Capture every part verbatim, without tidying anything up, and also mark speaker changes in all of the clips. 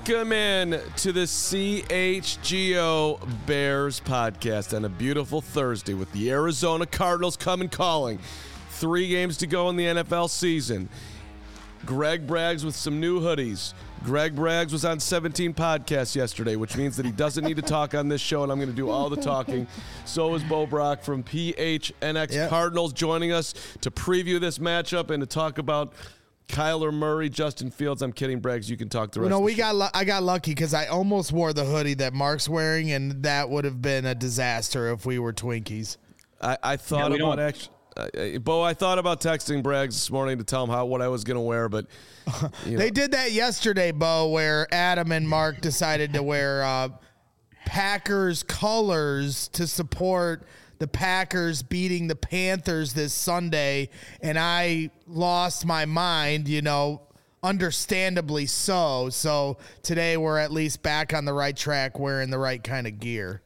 Speaker 1: Welcome in to the C H G O Bears podcast on a beautiful Thursday with the Arizona Cardinals coming calling. Three games to go in the N F L season. Greg Braggs with some new hoodies. Greg Braggs was on seventeen podcasts yesterday, which means that he doesn't need to talk on this show, and I'm going to do all the talking. So is Bo Brock from P H N X yep. Cardinals joining us to preview this matchup and to talk about Kyler Murray, Justin Fields. I'm kidding, Braggs. You can talk the rest.
Speaker 2: You know,
Speaker 1: of the
Speaker 2: we
Speaker 1: show.
Speaker 2: got. Lu- I got lucky because I almost wore the hoodie that Mark's wearing, and that would have been a disaster if we were Twinkies.
Speaker 1: I, I thought yeah, about actually. Uh, Bo, I thought about texting Braggs this morning to tell him how what I was going to wear, but you know.
Speaker 2: They did that yesterday, Bo, where Adam and Mark decided to wear uh, Packers colors to support the Packers beating the Panthers this Sunday, and I lost my mind, you know, understandably so. So today we're at least back on the right track wearing the right kind of gear.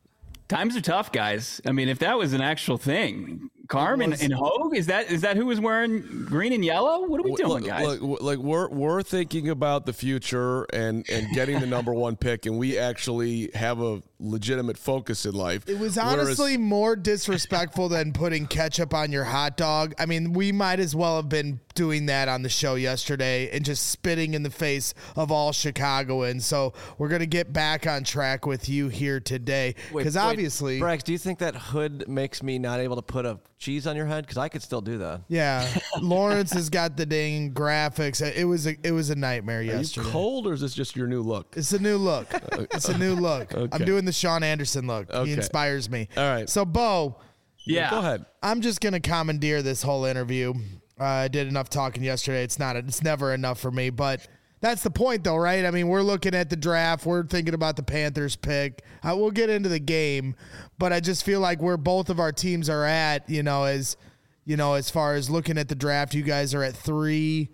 Speaker 3: Times are tough, guys. I mean, if that was an actual thing, Carm and, and Hogue, is that is that who was wearing green and yellow? What are we doing,
Speaker 1: look,
Speaker 3: guys?
Speaker 1: Look, like we're we're thinking about the future and and getting the number one pick, and we actually have a legitimate focus in life.
Speaker 2: It was honestly Whereas, more disrespectful than putting ketchup on your hot dog. I mean, we might as well have been doing that on the show yesterday and just spitting in the face of all Chicagoans. So we're going to get back on track with you here today. Because obviously...
Speaker 4: Braggs, do you think that hood makes me not able to put a cheese on your head? Because I could still do that.
Speaker 2: Yeah. Lawrence has got the dang graphics. It was a, it was a nightmare
Speaker 1: Are
Speaker 2: yesterday.
Speaker 1: you cold or is this just your new look?
Speaker 2: It's a new look. It's a new look. Okay. I'm doing the Sean Anderson look. Okay. He inspires me.
Speaker 1: All right.
Speaker 2: So, Bo...
Speaker 3: Yeah.
Speaker 1: Go ahead.
Speaker 2: I'm just going to commandeer this whole interview. Uh, I did enough talking yesterday. It's not. It's never enough for me. But that's the point, though, right? I mean, we're looking at the draft. We're thinking about the Panthers pick. Uh, we'll get into the game, but I just feel like where both of our teams are at, you know, as you know, as far as looking at the draft, you guys are at three,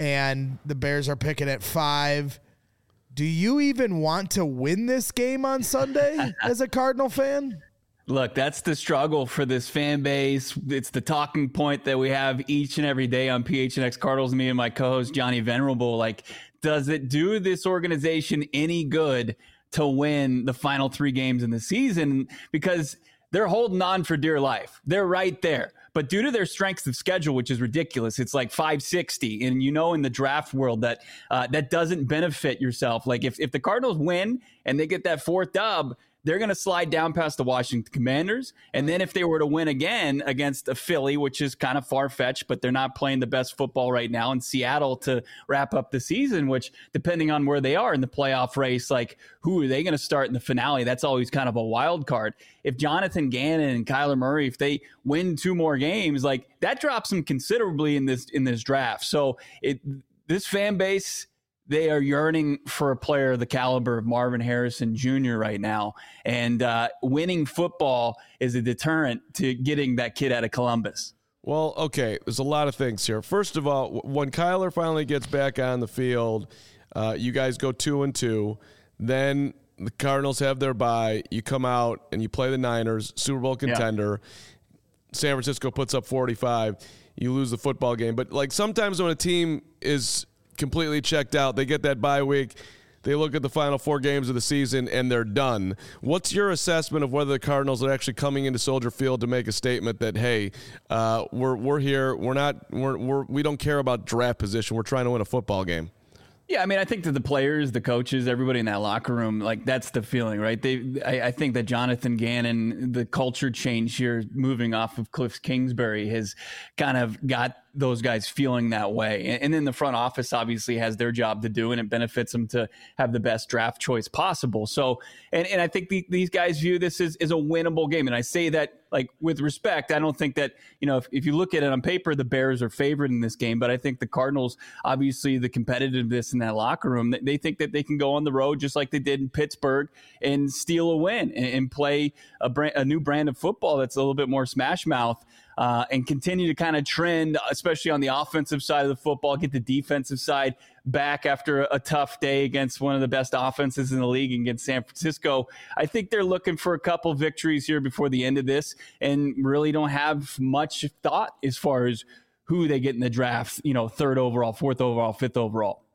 Speaker 2: and the Bears are picking at five. Do you even want to win this game on Sunday as a Cardinal fan?
Speaker 3: Look, that's the struggle for this fan base. It's the talking point that we have each and every day on P H N X Cardinals, me and my co-host Johnny Venerable. Like, does it do this organization any good to win the final three games in the season? Because they're holding on for dear life. They're right there. But due to their strength of schedule, which is ridiculous, it's like five sixty. And you know, in the draft world, that uh, that doesn't benefit yourself. Like if, if the Cardinals win and they get that fourth dub, they're going to slide down past the Washington Commanders. And then if they were to win again against a Philly, which is kind of far-fetched, but they're not playing the best football right now, in Seattle to wrap up the season, which depending on where they are in the playoff race, like who are they going to start in the finale? That's always kind of a wild card. If Jonathan Gannon and Kyler Murray, if they win two more games, like that drops them considerably in this in this draft. So it this fan base, they are yearning for a player of the caliber of Marvin Harrison Junior right now. And uh, winning football is a deterrent to getting that kid out of Columbus.
Speaker 1: Well, okay, there's a lot of things here. First of all, when Kyler finally gets back on the field, uh, you guys go two and two. Then the Cardinals have their bye. You come out and you play the Niners, Super Bowl contender. Yeah. San Francisco puts up forty-five. You lose the football game. But like sometimes when a team is completely checked out, they get that bye week, they look at the final four games of the season and they're done. What's your assessment of whether the Cardinals are actually coming into Soldier Field to make a statement that, hey, uh, we're we're here, we're not we're, we're we don't care about draft position, we're trying to win a football game?
Speaker 3: Yeah, I mean, I think that the players, the coaches, everybody in that locker room, like that's the feeling, right? They, I, I think that Jonathan Gannon, the culture change here, moving off of Cliff Kingsbury, has kind of got those guys feeling that way. And, and then the front office obviously has their job to do, and it benefits them to have the best draft choice possible. So, and, and I think the, these guys view this as, as a winnable game. And I say that like with respect. I don't think that, you know, if, if you look at it on paper, the Bears are favored in this game, but I think the Cardinals, obviously the competitiveness in that locker room, they think that they can go on the road just like they did in Pittsburgh and steal a win and, and play a, brand, a new brand of football that's a little bit more smash mouth. Uh, and continue to kind of trend, especially on the offensive side of the football, get the defensive side back after a, a tough day against one of the best offenses in the league against San Francisco. I think they're looking for a couple victories here before the end of this and really don't have much thought as far as who they get in the draft, you know, third overall, fourth overall, fifth overall.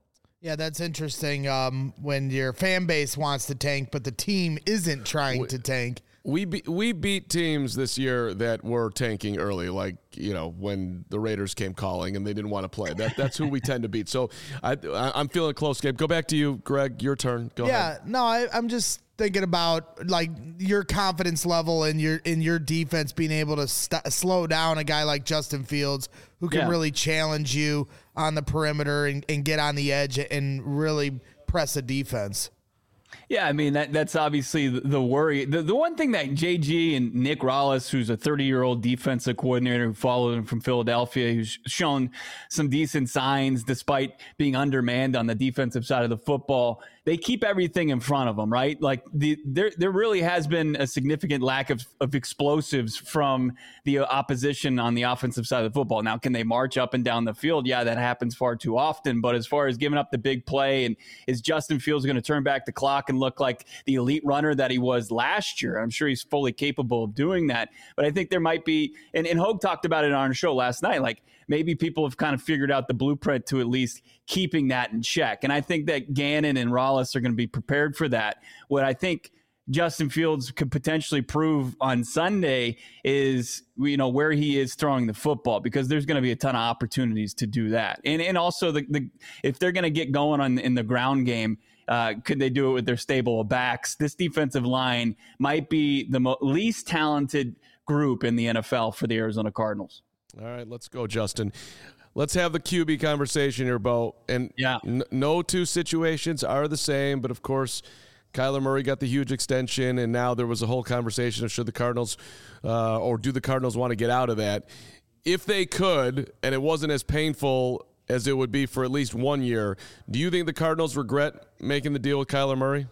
Speaker 2: Yeah, that's interesting. Um, when your fan base wants to tank, but the team isn't trying to tank.
Speaker 1: We be, we beat teams this year that were tanking early, like, you know, when the Raiders came calling and they didn't want to play. That that's who we tend to beat. So I, I I'm feeling a close game. Go back to you, Greg. Your turn. Go
Speaker 2: yeah,
Speaker 1: ahead.
Speaker 2: no, I, I'm just thinking about like your confidence level and your in your defense being able to st- slow down a guy like Justin Fields who can
Speaker 3: Yeah.
Speaker 2: really challenge you on the perimeter and, and get on the edge and really press a defense.
Speaker 3: Yeah, I mean, that that's obviously the, the worry. The, the one thing that J G and Nick Rollis, who's a thirty-year-old defensive coordinator who followed him from Philadelphia, who's shown some decent signs despite being undermanned on the defensive side of the football, they keep everything in front of them, right? Like, the, there there really has been a significant lack of, of explosives from the opposition on the offensive side of the football. Now, can they march up and down the field? Yeah, that happens far too often. But as far as giving up the big play, and is Justin Fields going to turn back the clock and look like the elite runner that he was last year? I'm sure he's fully capable of doing that. But I think there might be, and, and Hogue talked about it on our show last night, like maybe people have kind of figured out the blueprint to at least keeping that in check. And I think that Gannon and Rollis are going to be prepared for that. What I think Justin Fields could potentially prove on Sunday is, you know, where he is throwing the football, because there's going to be a ton of opportunities to do that. And and also the, the if they're going to get going on in the ground game, uh, could they do it with their stable of backs? This defensive line might be the mo- least talented group in the N F L for the Arizona Cardinals.
Speaker 1: All right, let's go, Justin. Let's have the Q B conversation here, Bo. And
Speaker 3: Yeah.
Speaker 1: n- no two situations are the same, but of course, Kyler Murray got the huge extension, and now there was a whole conversation of should the Cardinals uh, or do the Cardinals want to get out of that? If they could, and it wasn't as painful as it would be for at least one year, do you think the Cardinals regret making the deal with Kyler Murray?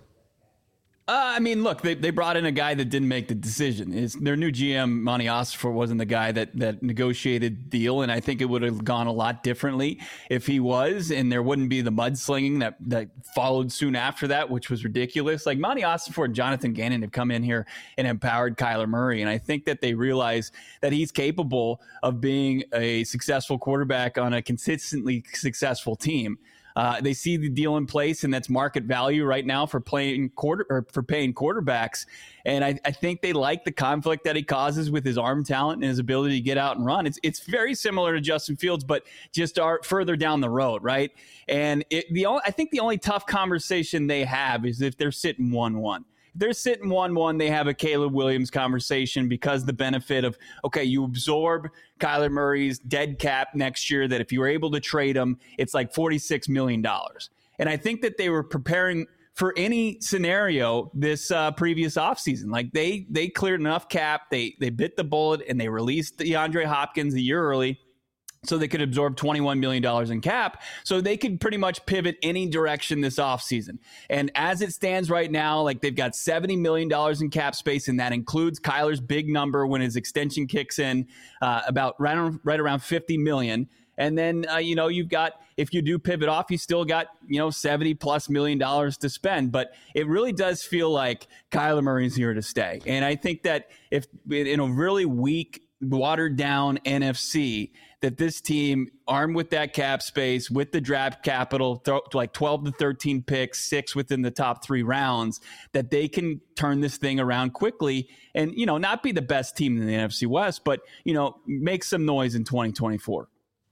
Speaker 3: Uh, I mean, look, they, they brought in a guy that didn't make the decision. It's, their new G M, Monty Ossenfort, wasn't the guy that, that negotiated the deal, and I think it would have gone a lot differently if he was, and there wouldn't be the mudslinging that, that followed soon after that, which was ridiculous. Like, Monty Ossenfort and Jonathan Gannon have come in here and empowered Kyler Murray, and I think that they realize that he's capable of being a successful quarterback on a consistently successful team. Uh, they see the deal in place, and that's market value right now for playing quarter or for paying quarterbacks. And I, I think they like the conflict that he causes with his arm talent and his ability to get out and run. It's it's very similar to Justin Fields, but just are further down the road, right? And it, the only, I think the only tough conversation they have is if they're sitting one one. If they're sitting one one, they have a Caleb Williams conversation, because the benefit of, okay, you absorb Kyler Murray's dead cap next year, that if you were able to trade him, it's like forty-six million dollars. And I think that they were preparing for any scenario this uh, previous offseason. Like, they they cleared enough cap, they they bit the bullet, and they released DeAndre Hopkins a year early, so they could absorb twenty-one million dollars in cap, so they could pretty much pivot any direction this offseason. And as it stands right now, like, they've got seventy million dollars in cap space, and that includes Kyler's big number when his extension kicks in, uh, about right, on, right around fifty million dollars. And then, uh, you know, you've got, if you do pivot off, you still got, you know, seventy plus million dollars to spend. But it really does feel like Kyler Murray's here to stay. And I think that if in a really weak, watered down N F C, that this team, armed with that cap space, with the draft capital, th- like twelve to thirteen picks, six within the top three rounds, that they can turn this thing around quickly and, you know, not be the best team in the N F C West, but, you know, make some noise in twenty twenty-four.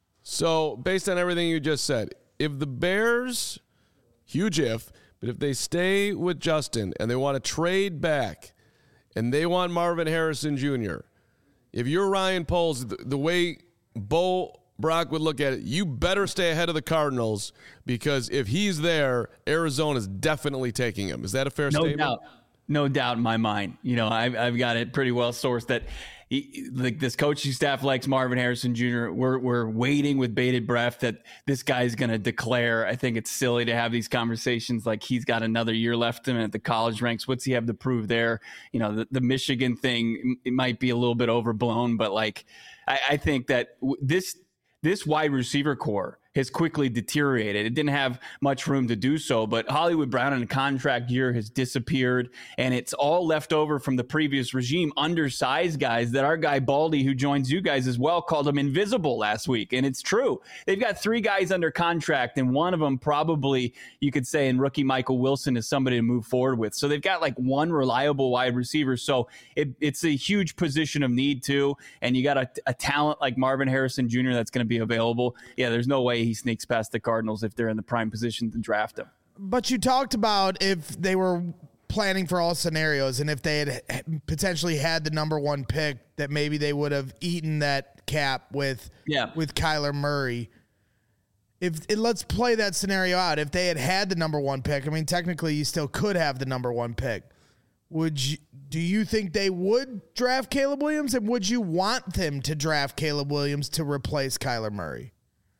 Speaker 1: So, based on everything you just said, if the Bears, huge if, but if they stay with Justin and they want to trade back and they want Marvin Harrison Junior, if you're Ryan Poles, the, the way Bo Brock would look at it, you better stay ahead of the Cardinals, because if he's there, Arizona's definitely taking him. Is that a fair
Speaker 3: No
Speaker 1: statement?
Speaker 3: doubt. No doubt in my mind. You know, I've, I've got it pretty well sourced that he, like this coaching staff likes Marvin Harrison Junior We're we're waiting with bated breath that this guy's going to declare. I think it's silly to have these conversations like he's got another year left in him at the college ranks. What's he have to prove there? You know, the, the Michigan thing, it might be a little bit overblown, but like I, I think that w- this this wide receiver core has quickly deteriorated. It didn't have much room to do so, but Hollywood Brown in a contract year has disappeared, and it's all left over from the previous regime, undersized guys that our guy Baldy, who joins you guys as well, called them invisible last week. And it's true. They've got three guys under contract, and one of them probably, you could say, in rookie Michael Wilson is somebody to move forward with. So they've got like one reliable wide receiver. So it, it's a huge position of need too. And you got a, a talent like Marvin Harrison Junior that's going to be available. Yeah, there's no way he sneaks past the Cardinals if they're in the prime position to draft him.
Speaker 2: But you talked about if they were planning for all scenarios and if they had potentially had the number one pick, that maybe they would have eaten that cap with
Speaker 3: yeah.
Speaker 2: with Kyler Murray. If it, let's play that scenario out. If they had had the number one pick, I mean, technically you still could have the number one pick. Would you, do you think they would draft Caleb Williams, and would you want them to draft Caleb Williams to replace Kyler Murray?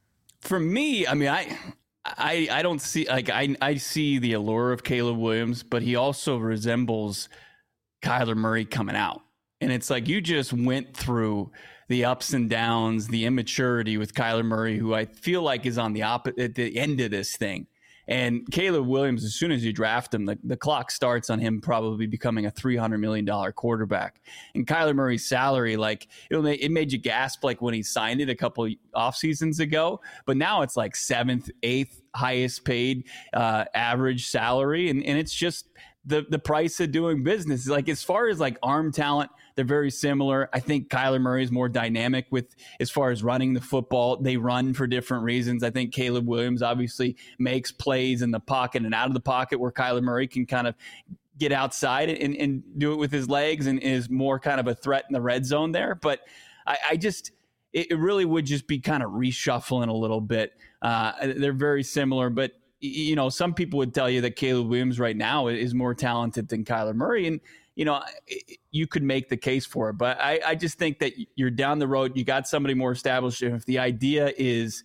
Speaker 3: For me, I mean, I, I, I don't see like I, I see the allure of Caleb Williams, but he also resembles Kyler Murray coming out, and it's like you just went through the ups and downs, the immaturity with Kyler Murray, who I feel like is on the op- at the end of this thing. And Caleb Williams, as soon as you draft him, the, the clock starts on him probably becoming a three hundred million dollars quarterback. And Kyler Murray's salary, like it, it made you gasp like when he signed it a couple off seasons ago. But now it's like seventh, eighth highest paid uh, average salary. And, and it's just the, the price of doing business. Like as far as like arm talent, they're very similar. I think Kyler Murray is more dynamic with as far as running the football. They run for different reasons. I think Caleb Williams obviously makes plays in the pocket and out of the pocket where Kyler Murray can kind of get outside and, and do it with his legs and is more kind of a threat in the red zone there. But I, I just, it, it really would just be kind of reshuffling a little bit. Uh, they're very similar, but you know, some people would tell you that Caleb Williams right now is more talented than Kyler Murray. And, you know, you could make the case for it, but I, I just think that you're down the road. You got somebody more established. If the idea is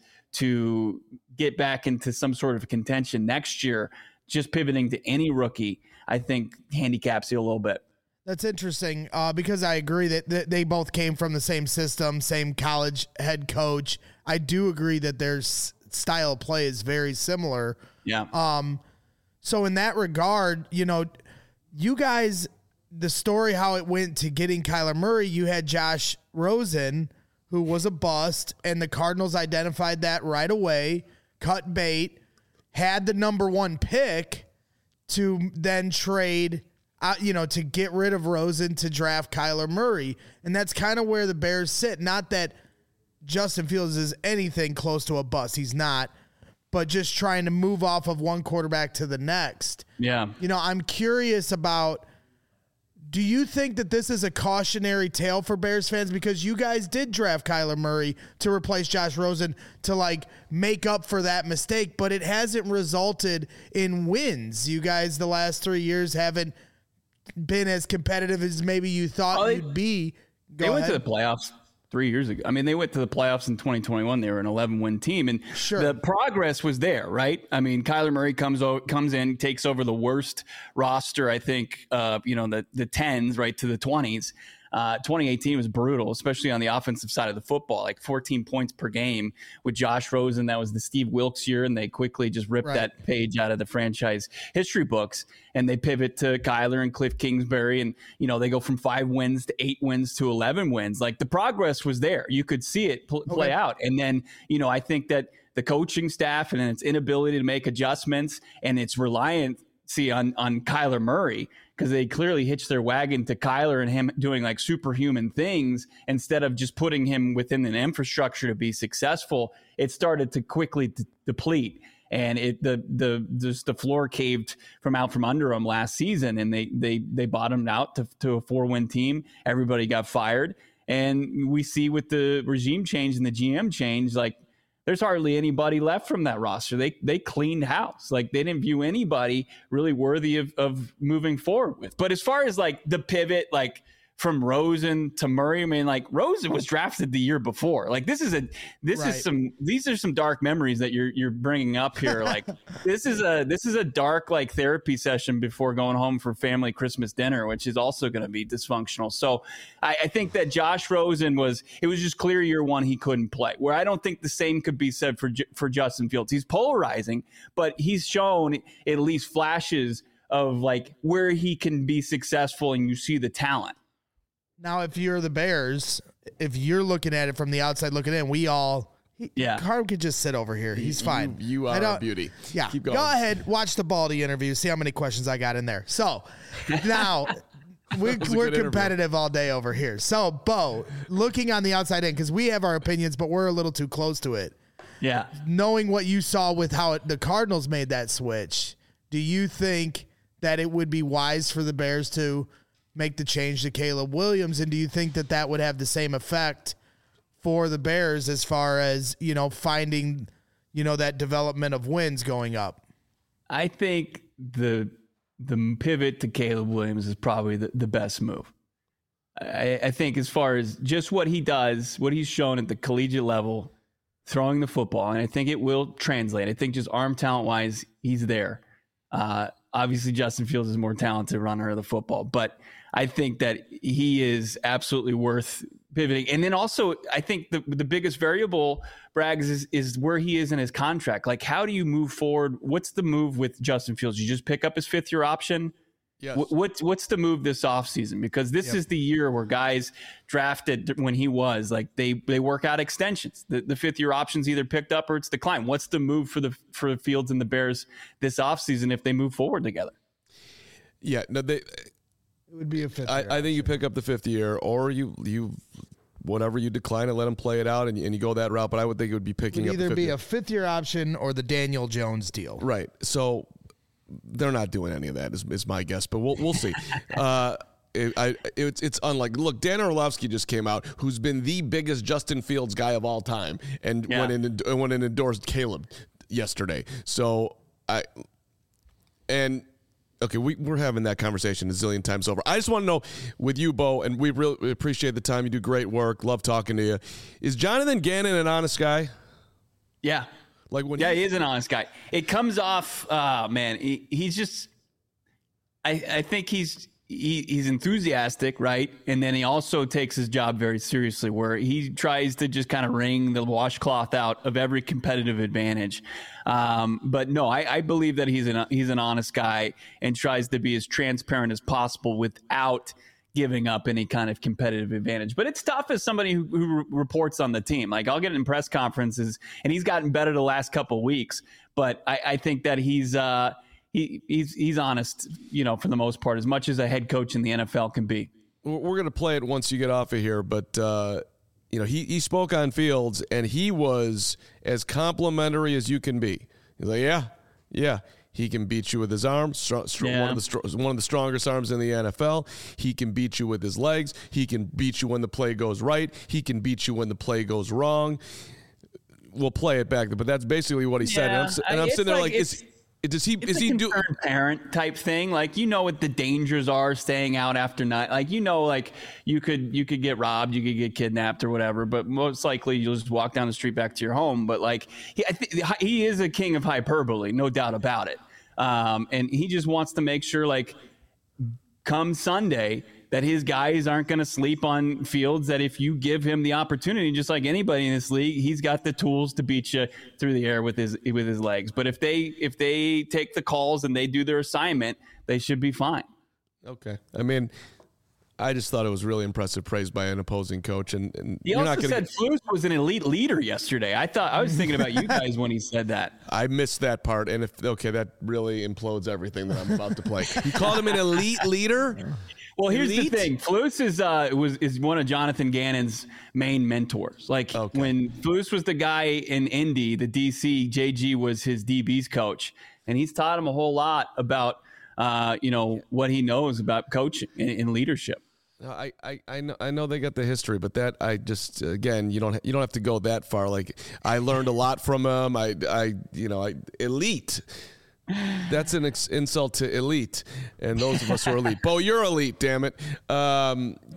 Speaker 3: to get back into some sort of contention next year, just pivoting to any rookie, I think handicaps you a little bit.
Speaker 2: That's interesting uh, because I agree that, that they both came from the same system, same college head coach. I do agree that their s- style of play is very similar.
Speaker 3: Yeah.
Speaker 2: Um. So in that regard, you know, you guys, the story how it went to getting Kyler Murray, you had Josh Rosen, who was a bust, and the Cardinals identified that right away, cut bait, had the number one pick to then trade, uh, you know, to get rid of Rosen to draft Kyler Murray. And that's kind of where the Bears sit. Not that Justin Fields is anything close to a bust. He's not. But just trying to move off of one quarterback to the next.
Speaker 3: Yeah.
Speaker 2: You know, I'm curious about, do you think that this is a cautionary tale for Bears fans? Because you guys did draft Kyler Murray to replace Josh Rosen to, like, make up for that mistake, but it hasn't resulted in wins. You guys, the last three years, haven't been as competitive as maybe you thought oh, they, you'd be. Go
Speaker 3: they went
Speaker 2: ahead.
Speaker 3: to the playoffs three years ago. I mean, they went to the playoffs in twenty twenty-one. They were an eleven-win team, and
Speaker 2: sure.
Speaker 3: the progress was there, right? I mean, Kyler Murray comes o- comes in, takes over the worst roster, I think, uh, you know, the the tens, right, to the twenties. Uh, twenty eighteen was brutal, especially on the offensive side of the football, like fourteen points per game with Josh Rosen. That was the Steve Wilkes year, and they quickly just ripped
Speaker 2: right.
Speaker 3: that page out of the franchise history books, and they pivot to Kyler and Cliff Kingsbury, and, you know, they go from five wins to eight wins to eleven wins. Like, the progress was there. You could see it pl- play
Speaker 2: okay.
Speaker 3: out. And then, you know, I think that the coaching staff and its inability to make adjustments and its reliancy on, on Kyler Murray, because they clearly hitched their wagon to Kyler and him doing like superhuman things instead of just putting him within an infrastructure to be successful. It started to quickly d- deplete, and it the the just the floor caved from out from under them last season, and they they they bottomed out to, to a four win team. Everybody got fired, and we see with the regime change and the G M change, like, there's hardly anybody left from that roster. They they cleaned house. Like, they didn't view anybody really worthy of, of moving forward with. But as far as like the pivot, like from Rosen to Murray. I mean, like Rosen was drafted the year before. Like this is a this
Speaker 2: Right.
Speaker 3: is some these are some dark memories that you're you're bringing up here. Like this is a this is a dark like therapy session before going home for family Christmas dinner, which is also going to be dysfunctional. So I, I think that Josh Rosen was it was just clear year one he couldn't play. Where I don't think the same could be said for for Justin Fields. He's polarizing, but he's shown at least flashes of like where he can be successful, and you see the talent.
Speaker 2: Now, if you're the Bears, if you're looking at it from the outside looking in, we all, he,
Speaker 3: Yeah.
Speaker 2: Carm could just sit over here. He's fine.
Speaker 1: You, you
Speaker 2: I
Speaker 1: are
Speaker 2: don't-
Speaker 1: a beauty.
Speaker 2: Yeah.
Speaker 1: Keep going.
Speaker 2: Go ahead, watch the Baldy interview, see how many questions I got in there. So now we're,
Speaker 1: was a
Speaker 2: we're
Speaker 1: good interview.
Speaker 2: competitive all day over here. So, Bo, looking on the outside in, because we have our opinions, but we're a little too close to it.
Speaker 3: Yeah.
Speaker 2: Knowing what you saw with how it, the Cardinals made that switch, do you think that it would be wise for the Bears to make the change to Caleb Williams? And do you think that that would have the same effect for the Bears as far as, you know, finding, you know, that development of wins going up?
Speaker 3: I think the the pivot to Caleb Williams is probably the, the best move. I, I think as far as just what he does, what he's shown at the collegiate level, throwing the football, and I think it will translate. I think just arm talent wise, he's there. Uh, obviously, Justin Fields is more talented runner of the football, but I think that he is absolutely worth pivoting. And then also, I think the the biggest variable, Braggs, is, is where he is in his contract. Like, how do you move forward? What's the move with Justin Fields? You just pick up his fifth year option?
Speaker 1: Yes.
Speaker 3: What, what's what's the move this offseason? Because this
Speaker 2: Yep.
Speaker 3: is the year where guys drafted when he was like they they work out extensions. The, the fifth year option's either picked up or it's declined. What's the move for the for the Fields and the Bears this offseason if they move forward together?
Speaker 1: Yeah, no, they.
Speaker 2: It would be a fifth
Speaker 1: I,
Speaker 2: year.
Speaker 1: I think you pick up the fifth year, or you you whatever you decline it, let him play it out, and, and you go that route. But I would think it would be
Speaker 2: It
Speaker 1: picking
Speaker 2: would
Speaker 1: up the
Speaker 2: either
Speaker 1: fifth
Speaker 2: be
Speaker 1: year.
Speaker 2: a fifth year option or the Daniel Jones deal.
Speaker 1: Right. So they're not doing any of that, is, is my guess. But we'll we'll see. uh, it, I, it's it's unlike. Look, Dan Orlovsky just came out, who's been the biggest Justin Fields guy of all time, and
Speaker 3: Yeah.
Speaker 1: went in and went and endorsed Caleb yesterday. So I and. Okay, we, we're having that conversation a zillion times over. I just want to know with you, Bo, and we really we appreciate the time. You do great work. Love talking to you. Is Jonathan Gannon an honest guy?
Speaker 3: Yeah.
Speaker 1: Like when
Speaker 3: Yeah,
Speaker 1: he,
Speaker 3: he is an honest guy. It comes off, uh, man, he, he's just, I, I think he's, he, he's enthusiastic, right? And then he also takes his job very seriously, where he tries to just kind of wring the washcloth out of every competitive advantage. Um, but no, I, I believe that he's an, he's an honest guy and tries to be as transparent as possible without giving up any kind of competitive advantage. But it's tough as somebody who, who reports on the team. Like, I'll get in press conferences, and he's gotten better the last couple of weeks. But I, I think that he's uh, he, he's he's honest, you know, for the most part, as much as a head coach in the N F L can be.
Speaker 1: we're going to play it once you get off of here, but uh, you know, he, he spoke on Fields, and he was as complimentary as you can be. He's like, yeah, yeah. He can beat you with his arms, str- str-
Speaker 3: Yeah.
Speaker 1: one of the str- one of the strongest arms in the N F L. He can beat you with his legs. He can beat you when the play goes right. He can beat you when the play goes wrong. We'll play it back, but that's basically what he said. And I'm, s- and I'm
Speaker 3: It's
Speaker 1: sitting there
Speaker 3: like-
Speaker 1: like, is,
Speaker 3: it's-
Speaker 1: does he
Speaker 3: It's
Speaker 1: is
Speaker 3: a
Speaker 1: he do?
Speaker 3: concerned parent type thing. Like, you know what the dangers are staying out after night. Like, you know, like you could you could get robbed, you could get kidnapped or whatever. But most likely you'll just walk down the street back to your home. But like he I th- he is a king of hyperbole, no doubt about it. Um, and he just wants to make sure, like, come Sunday, that his guys aren't going to sleep on Fields, that if you give him the opportunity, just like anybody in this league, he's got the tools to beat you through the air with his with his legs. But if they if they take the calls and they do their assignment, they should be fine.
Speaker 1: Okay, I mean, I just thought it was really impressive praise by an opposing coach, and, and
Speaker 3: He
Speaker 1: you're
Speaker 3: also
Speaker 1: not going
Speaker 3: said
Speaker 1: to.
Speaker 3: Flus was an elite leader yesterday. I thought I was thinking about you guys when he said that.
Speaker 1: I missed that part, and if okay, that really implodes everything that I'm about to play. You called him an elite leader.
Speaker 3: Well, here's
Speaker 1: Elite?
Speaker 3: the thing. Flus is uh was is one of Jonathan Gannon's main mentors. Like,
Speaker 1: Okay.
Speaker 3: when Flus was the guy in Indy, the D C, J G was his D B's coach, and he's taught him a whole lot about uh you know what he knows about coaching and, and leadership.
Speaker 1: No, I, I, I know I know they got the history, but that I just again you don't you don't have to go that far. Like, I learned a lot from him. I I you know I elite. That's an ex- insult to elite, and those of us who are elite. Bo, you're elite, damn it. Um,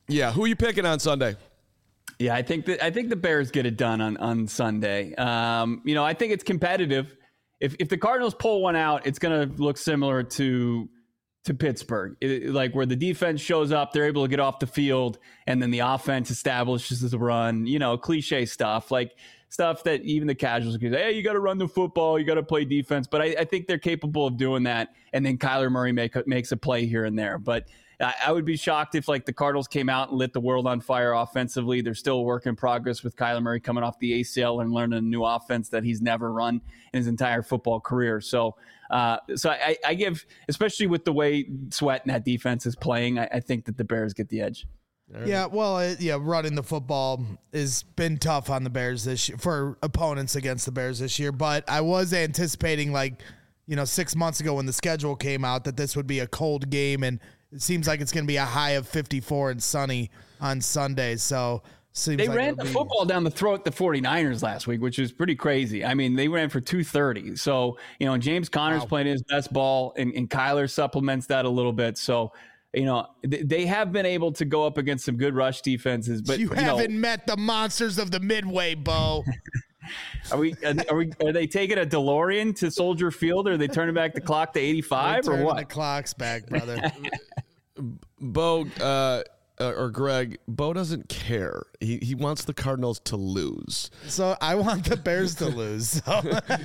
Speaker 1: Yeah, who are you picking on Sunday?
Speaker 3: Yeah, I think that I think the Bears get it done on on Sunday. Um, you know, I think it's competitive. If if the Cardinals pull one out, it's going to look similar to to Pittsburgh, it, like where the defense shows up, they're able to get off the field, and then the offense establishes the run. You know, cliche stuff, like stuff that even the casuals can say, hey, you got to run the football, you got to play defense. But I, I think they're capable of doing that, and then Kyler Murray make, makes a play here and there. But I, I would be shocked if like the Cardinals came out and lit the world on fire offensively. They're still a work in progress with Kyler Murray coming off the A C L and learning a new offense that he's never run in his entire football career. So Uh, so I, I give, especially with the way Sweat and that defense is playing, I, I think that the Bears get the edge.
Speaker 2: Yeah, well, it, yeah, running the football has been tough on the Bears this year for opponents against the Bears this year. But I was anticipating, like, you know, six months ago when the schedule came out, that this would be a cold game, and it seems like it's going to be a high of fifty-four and sunny on Sunday. So. Seems
Speaker 3: they
Speaker 2: like
Speaker 3: ran the
Speaker 2: be...
Speaker 3: football down the throat the 49ers last week, which is pretty crazy. I mean, they ran for two thirty. So, you know, James Conner's
Speaker 2: wow.
Speaker 3: playing his best ball, and, and Kyler supplements that a little bit. So, you know, th- they have been able to go up against some good rush defenses. But
Speaker 2: you,
Speaker 3: you
Speaker 2: haven't
Speaker 3: know,
Speaker 2: met the monsters of the Midway, Bo.
Speaker 3: Are we? Are we? Are they taking a DeLorean to Soldier Field, or are they turning back the clock to eighty-five, or what?
Speaker 2: The clock's back, brother.
Speaker 1: Bo, uh, Uh, or Greg, Bo doesn't care. He he wants the Cardinals to lose.
Speaker 2: So I want the Bears to lose. So.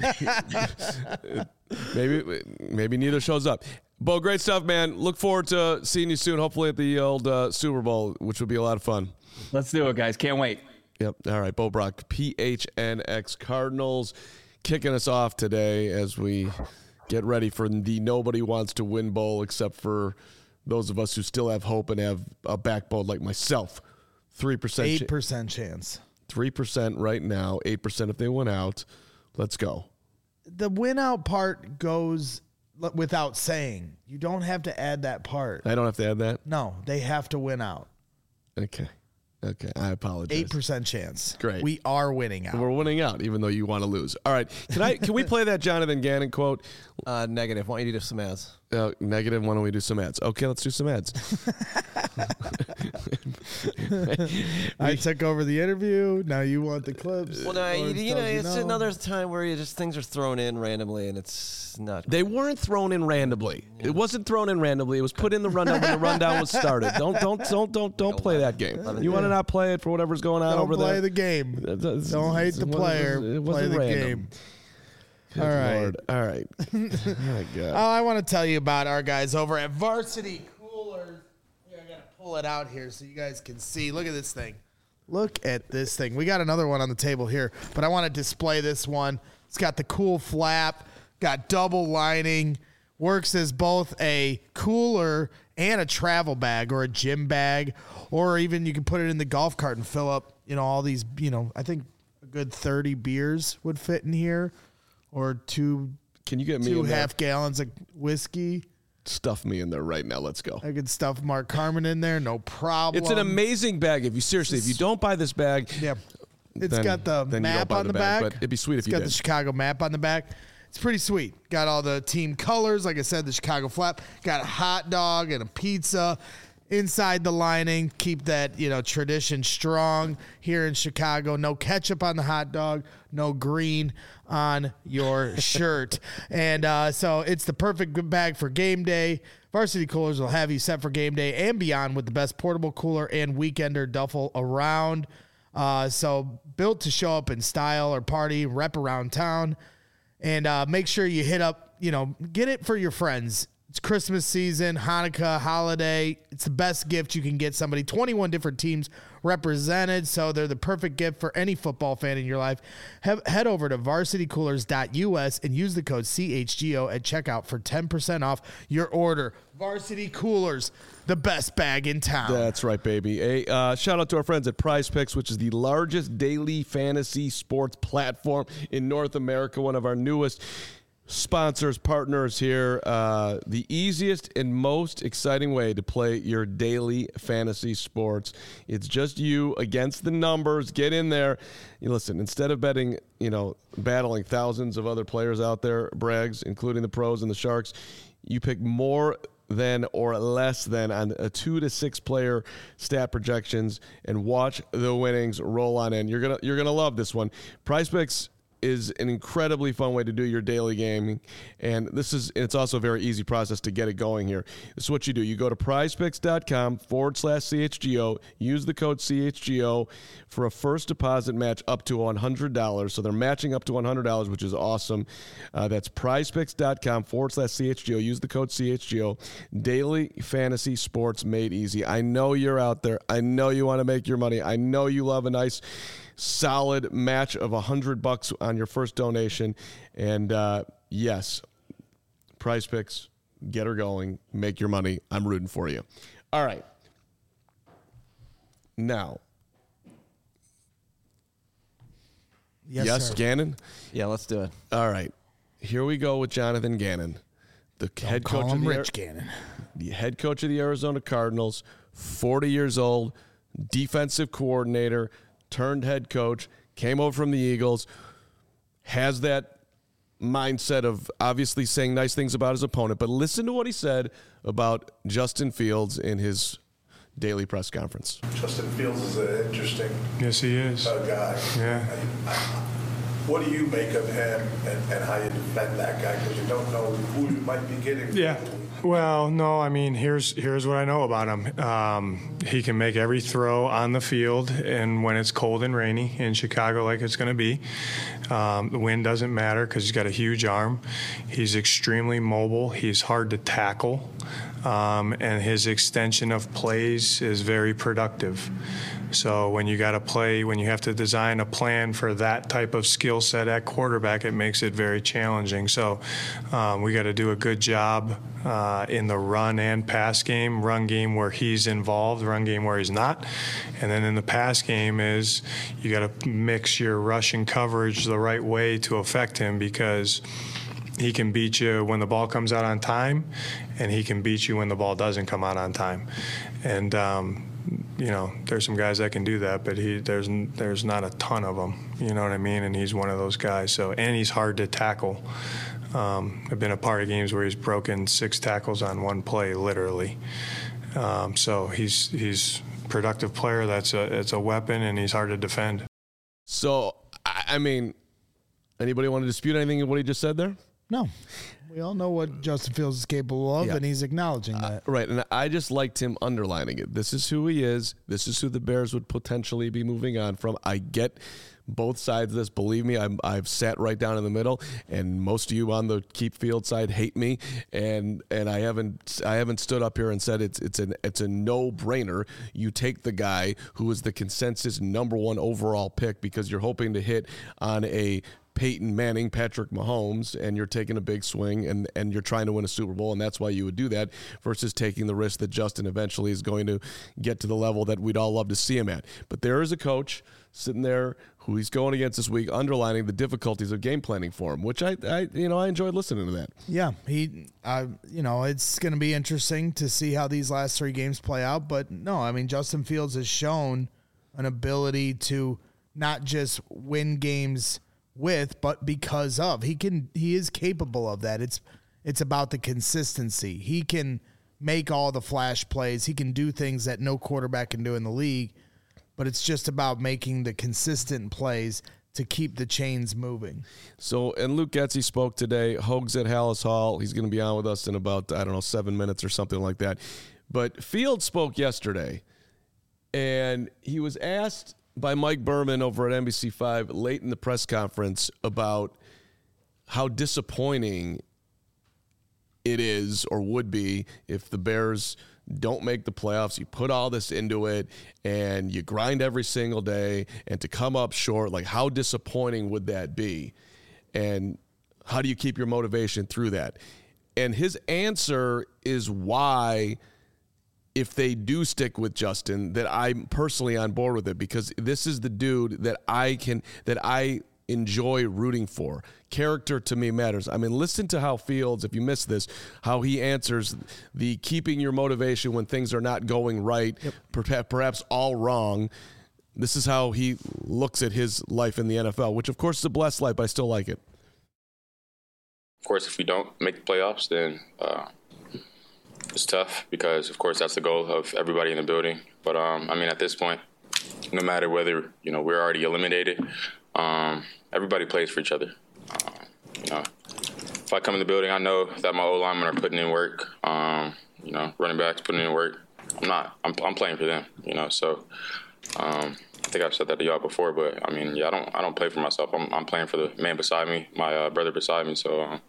Speaker 1: maybe maybe neither shows up. Bo, great stuff, man. Look forward to seeing you soon. Hopefully at the old uh, Super Bowl, which would be a lot of fun.
Speaker 3: Let's do it, guys. Can't wait.
Speaker 1: Yep. All right, Bo Brock, P H N X Cardinals, kicking us off today as we get ready for the Nobody Wants to Win Bowl, except for those of us who still have hope and have a backbone like myself. three percent.
Speaker 2: eight percent chance.
Speaker 1: three percent right now, eight percent if they win out. Let's go.
Speaker 2: The win out part goes without saying. You don't have to add that part.
Speaker 1: I don't have to add that?
Speaker 2: No, they have to win out.
Speaker 1: Okay. Okay, I apologize.
Speaker 2: eight percent chance.
Speaker 1: Great.
Speaker 2: We are winning out.
Speaker 1: We're winning out, even though you want to lose. All right. Can I? Can we play that Jonathan Gannon quote?
Speaker 4: Uh, negative. Why don't you do some ads?
Speaker 1: Uh, negative. Why don't we do some ads? Okay, let's do some ads.
Speaker 2: I took over the interview. Now you want the clips.
Speaker 4: Well, no, you, you know, it's
Speaker 2: you know.
Speaker 4: another time where you just things are thrown in randomly, and it's not.
Speaker 1: They weren't thrown in randomly. Yeah. It wasn't thrown in randomly. It was put in the rundown when the rundown was started. Don't don't don't don't don't play that game. You want to not play it for whatever's going on
Speaker 2: don't
Speaker 1: over there.
Speaker 2: Don't play the game. Don't hate the player.
Speaker 1: It wasn't
Speaker 2: play the
Speaker 1: random.
Speaker 2: game.
Speaker 1: Good
Speaker 2: All right.
Speaker 1: Lord. All right. Oh, my God.
Speaker 2: Oh, I want to tell you about our guys over at Varsity Coolers. Here, I got to pull it out here so you guys can see. Look at this thing. Look at this thing. We got another one on the table here, but I want to display this one. It's got the cool flap, got double lining, works as both a cooler and a travel bag or a gym bag, or even you can put it in the golf cart and fill up, you know, all these, you know, I think a good thirty beers would fit in here. Or two,
Speaker 1: Can you get me
Speaker 2: two
Speaker 1: in there?
Speaker 2: half gallons of whiskey.
Speaker 1: Stuff me in there right now. Let's go.
Speaker 2: I could stuff Mark Carmen in there, no problem.
Speaker 1: It's an amazing bag. If you seriously, if you don't buy this bag,
Speaker 2: yeah, it's
Speaker 1: then-
Speaker 2: got the
Speaker 1: then you don't
Speaker 2: map
Speaker 1: buy
Speaker 2: on
Speaker 1: the
Speaker 2: the
Speaker 1: bag,
Speaker 2: back.
Speaker 1: but it'd be sweet if
Speaker 2: It's
Speaker 1: you
Speaker 2: got
Speaker 1: did.
Speaker 2: the Chicago map on the back. It's pretty sweet. Got all the team colors, like I said, the Chicago flap. Got a hot dog and a pizza inside the lining. Keep that, you know, tradition strong here in Chicago. No ketchup on the hot dog. No green on your shirt. And uh, so it's the perfect bag for game day. Varsity Coolers will have you set for game day and beyond with the best portable cooler and weekender duffel around. Uh, so built to show up in style or party, rep around town. And uh, make sure you hit up, you know, get it for your friends. It's Christmas season, Hanukkah, holiday. It's the best gift you can get somebody. twenty-one different teams represented, so they're the perfect gift for any football fan in your life. Have, head over to varsity coolers dot U S and use the code C H G O at checkout for ten percent off your order. Varsity Coolers, the best bag in town.
Speaker 1: That's right, baby. A uh, shout out to our friends at Prize Picks, which is the largest daily fantasy sports platform in North America, one of our newest sponsors, partners here. Uh, the easiest and most exciting way to play your daily fantasy sports. It's just you against the numbers. Get in there. You listen, instead of betting, you know, battling thousands of other players out there, Brags, including the pros and the Sharks, you pick more than or less than on a two to six player stat projections and watch the winnings roll on in. You're gonna you're gonna love this one. PrizePicks is an incredibly fun way to do your daily gaming, and this is it's also a very easy process to get it going here. This is what you do. You go to prizepicks.com forward slash CHGO, use the code C H G O for a first deposit match up to one hundred dollars. So they're matching up to one hundred dollars, which is awesome. Uh, that's prizepicks.com forward slash CHGO. Use the code C H G O. Daily fantasy sports made easy. I know you're out there. I know you want to make your money. I know you love a nice solid match of a hundred bucks on your first donation. And uh, yes, PrizePicks, get her going, make your money. I'm rooting for you. All right. Now,
Speaker 2: Yes,
Speaker 1: yes,
Speaker 2: sir.
Speaker 1: Gannon?
Speaker 4: Yeah, let's do it.
Speaker 1: All right. Here we go with Jonathan Gannon, the head
Speaker 2: Call
Speaker 1: coach of
Speaker 2: him
Speaker 1: the
Speaker 2: Rich Gannon.
Speaker 1: the head coach of the Arizona Cardinals, forty years old, defensive coordinator, turned head coach, came over from the Eagles, has that mindset of obviously saying nice things about his opponent. But listen to what he said about Justin Fields in his daily press conference.
Speaker 5: Justin Fields is an interesting
Speaker 6: Yes, he is.
Speaker 5: uh, guy.
Speaker 6: Yeah.
Speaker 5: What do you make of him and, and how you defend that guy? Because you don't know who you might be getting.
Speaker 6: Yeah. Well, no, I mean, here's here's what I know about him. Um, he can make every throw on the field, and when it's cold and rainy in Chicago, like it's going to be, um, the wind doesn't matter because he's got a huge arm. He's extremely mobile. He's hard to tackle, um, and his extension of plays is very productive. So when you got to play, when you have to design a plan for that type of skill set at quarterback, it makes it very challenging. So um, we got to do a good job uh, in the run and pass game. Run game where he's involved, run game where he's not. And then in the pass game is you got to mix your rushing coverage the right way to affect him, because he can beat you when the ball comes out on time, and he can beat you when the ball doesn't come out on time. And um, you know, there's some guys that can do that, but he there's there's not a ton of them. You know what I mean? And he's one of those guys. So, and he's hard to tackle. Um, I've been a part of games where he's broken six tackles on one play, literally. Um, so he's he's a productive player. That's a it's a weapon, and he's hard to defend.
Speaker 1: So, I I mean, anybody want to dispute anything of what he just said there?
Speaker 2: No. We all know what Justin Fields is capable of,
Speaker 1: Yeah.
Speaker 2: and he's acknowledging that.
Speaker 1: Right, and I just liked him underlining it. This is who he is. This is who the Bears would potentially be moving on from. I get both sides of this. Believe me, I'm, I've sat right down in the middle, and most of you on the Keep Field side hate me, and and I haven't I haven't stood up here and said it's it's an it's a no brainer. You take the guy who is the consensus number one overall pick because you're hoping to hit on a Peyton Manning, Patrick Mahomes, and you're taking a big swing and, and you're trying to win a Super Bowl, and that's why you would do that versus taking the risk that Justin eventually is going to get to the level that we'd all love to see him at. But there is a coach sitting there who he's going against this week, underlining the difficulties of game planning for him, which I, I you know, I enjoyed listening to that.
Speaker 2: Yeah, he, uh, you know, it's going to be interesting to see how these last three games play out. But no, I mean, Justin Fields has shown an ability to not just win games with, but because of. He can, he is capable of that. It's, it's about the consistency. He can make all the flash plays. He can do things that no quarterback can do in the league, but it's just about making the consistent plays to keep the chains moving.
Speaker 1: So, and Luke Getsy spoke today. Hogs at Hallis Hall. He's going to be on with us in about, I don't know, seven minutes or something like that. But Fields spoke yesterday, and he was asked by Mike Berman over at N B C five late in the press conference about how disappointing it is or would be if the Bears don't make the playoffs. You put all this into it and you grind every single day, and to come up short, like how disappointing would that be? And how do you keep your motivation through that? And his answer is why, if they do stick with Justin, that I'm personally on board with it, because this is the dude that I can, that I enjoy rooting for. Character to me matters. I mean, listen to how Fields, if you missed this, how he answers the keeping your motivation when things are not going right, yep. per- perhaps all wrong. This is how he looks at his life in the N F L, which of course is a blessed life, but I still like it.
Speaker 7: Of course, if we don't make the playoffs, then uh, it's tough because, of course, that's the goal of everybody in the building. But, um, I mean, at this point, no matter whether, you know, we're already eliminated, um, everybody plays for each other. Uh, you know, if I come in the building, I know that my O-linemen are putting in work. Um, you know, running backs putting in work. I'm not. I'm, I'm playing for them, you know, so um, I think I've said that to y'all before, but, I mean, yeah, I don't I don't play for myself. I'm, I'm playing for the man beside me, my uh, brother beside me, so um,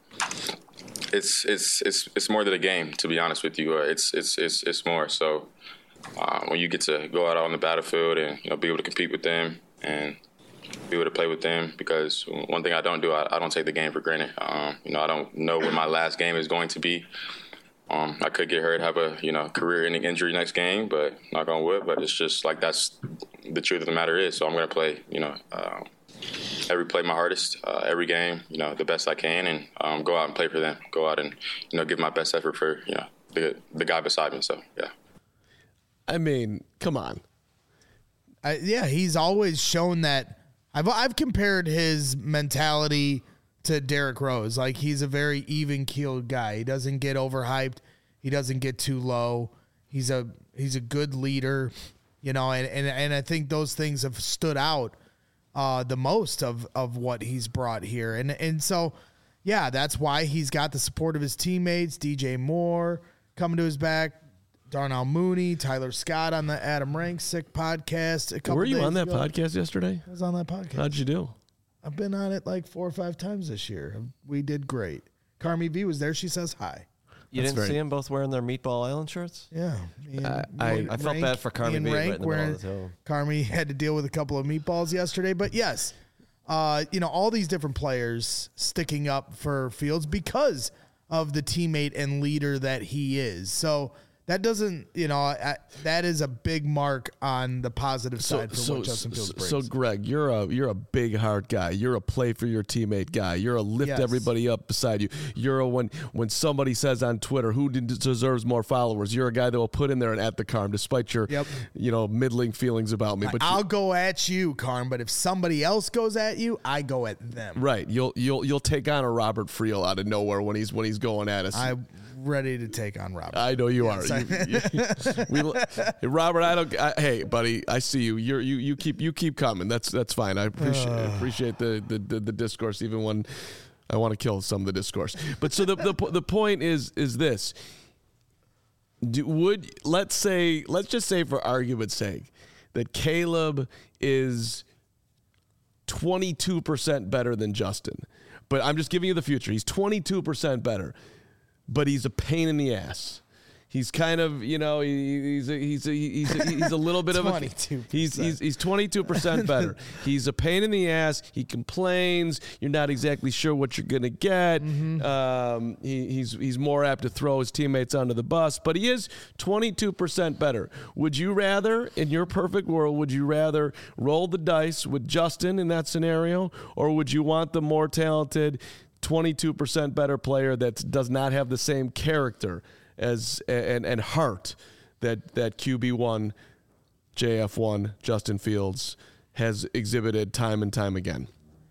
Speaker 7: it's it's it's it's more than a game, to be honest with you. Uh, it's it's it's it's more. So uh, when you get to go out on the battlefield and, you know, be able to compete with them and be able to play with them, because one thing I don't do, I, I don't take the game for granted. Um, you know, I don't know when my last game is going to be. Um, I could get hurt, have a, you know, career-ending injury next game, but knock on wood. But it's just like that's the truth of the matter is. So I'm going to play, you know, uh, every play my hardest, uh, every game, you know, the best I can, and um, go out and play for them. Go out and, you know, give my best effort for, you know, the the guy beside me. So yeah.
Speaker 1: I mean, come on.
Speaker 2: I, yeah, he's always shown that. I've I've compared his mentality to Derrick Rose. Like, he's a very even-keeled guy. He doesn't get overhyped. He doesn't get too low. He's a he's a good leader, you know, and, and, and I think those things have stood out uh, the most of, of what he's brought here. And and so, yeah, that's why he's got the support of his teammates, D J Moore coming to his back, Darnell Mooney, Tyler Scott on the Adam Ranks Sick podcast. A couple
Speaker 1: Were you
Speaker 2: days
Speaker 1: on that
Speaker 2: ago.
Speaker 1: podcast yesterday?
Speaker 2: I was on that podcast.
Speaker 1: How'd you do?
Speaker 2: I've been on it like four or five times this year. We did great. Carmi V was there. She says hi.
Speaker 4: You
Speaker 1: That's
Speaker 4: didn't
Speaker 1: very-
Speaker 4: see them both wearing their Meatball Island shirts?
Speaker 2: Yeah. Me and-
Speaker 1: I-
Speaker 2: me
Speaker 1: I-
Speaker 2: and
Speaker 4: I felt
Speaker 2: Rank-
Speaker 4: bad for Carmi
Speaker 2: me and
Speaker 4: B right
Speaker 2: Rank
Speaker 4: in the middle
Speaker 2: wearing-
Speaker 4: of the hill.
Speaker 2: Carmi had to deal with a couple of meatballs yesterday. But yes, uh, you know, all these different players sticking up for Fields because of the teammate and leader that he is. So that doesn't, you know, I, that is a big mark on the positive side for
Speaker 1: so,
Speaker 2: what Justin Fields brings.
Speaker 1: so Greg, you're a you're a big heart guy. You're a play for your teammate guy. You're a lift
Speaker 2: Yes.
Speaker 1: everybody up beside you. You're a when when somebody says on Twitter who d- deserves more followers, you're a guy that will put in there and at the Carm despite your
Speaker 2: Yep.
Speaker 1: you know middling feelings about me. But you-
Speaker 2: I'll go at you, Carm, but if somebody else goes at you, I go at them.
Speaker 1: right, you'll you'll you'll take on a Robert Friel out of nowhere when he's when he's going at us.
Speaker 2: I'm ready to take on Robert.
Speaker 1: I know you
Speaker 2: Yes,
Speaker 1: are.
Speaker 2: I-
Speaker 1: You- you- we, hey, Robert, I don't. I, hey, buddy, I see you. You're, you you keep you keep coming. That's that's fine. I appreciate appreciate the, the, the, the discourse, even when I want to kill some of the discourse. But so the the the point is is this. Do, would let's say let's just say for argument's sake that Caleb is twenty-two percent better than Justin, but I'm just giving you the future. He's twenty-two percent better, but he's a pain in the ass. He's kind of, you know, he, he's a, he's a, he's a, he's a little bit of a
Speaker 2: twenty-two percent.
Speaker 1: he's he's he's twenty-two percent better. He's a pain in the ass. He complains. You're not exactly sure what you're gonna get.
Speaker 2: Mm-hmm.
Speaker 1: Um, he, he's he's more apt to throw his teammates under the bus, but he is twenty-two percent better. Would you rather, in your perfect world, would you rather roll the dice with Justin in that scenario, or would you want the more talented twenty-two percent better player that does not have the same character as and and heart that that Q B one, J F one, Justin Fields has exhibited time and time again?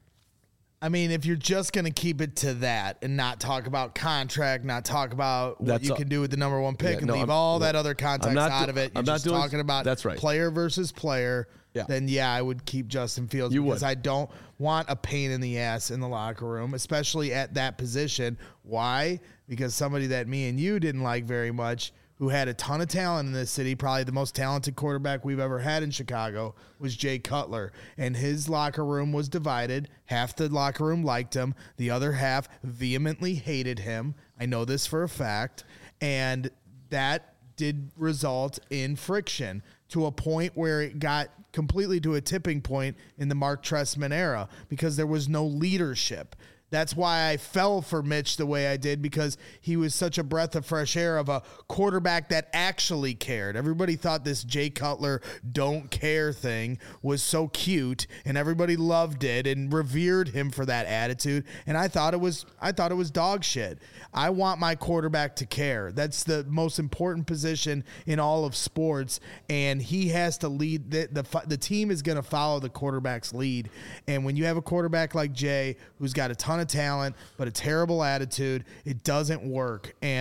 Speaker 2: I mean, if you're just going to keep it to that and not talk about contract, not talk about what
Speaker 1: That's
Speaker 2: you
Speaker 1: all-
Speaker 2: can do with the number one pick
Speaker 1: Yeah,
Speaker 2: and
Speaker 1: no,
Speaker 2: leave
Speaker 1: I'm-
Speaker 2: all
Speaker 1: no,
Speaker 2: that other
Speaker 1: I'm
Speaker 2: context
Speaker 1: not
Speaker 2: out
Speaker 1: do-
Speaker 2: of it, you're
Speaker 1: I'm not
Speaker 2: just
Speaker 1: doing-
Speaker 2: talking about
Speaker 1: that's right.
Speaker 2: player versus player,
Speaker 1: Yeah.
Speaker 2: then yeah, I would keep Justin Fields
Speaker 1: You
Speaker 2: because
Speaker 1: would.
Speaker 2: I don't want a pain in the ass in the locker room, especially at that position. Why? Because somebody that me and you didn't like very much, who had a ton of talent in this city, probably the most talented quarterback we've ever had in Chicago, was Jay Cutler. And his locker room was divided. Half the locker room liked him. The other half vehemently hated him. I know this for a fact. And that did result in friction to a point where it got completely to a tipping point in the Mark Trestman era because there was no leadership. That's why I fell for Mitch the way I did, because he was such a breath of fresh air of a quarterback that actually cared. Everybody thought this Jay Cutler don't care thing was so cute, and everybody loved it and revered him for that attitude. And I thought it was I thought it was dog shit. I want my quarterback to care. That's the most important position in all of sports, and he has to lead. The the, the team is going to follow the quarterback's lead. And when you have a quarterback like Jay, who's got a ton of talent but a terrible attitude, it doesn't work. And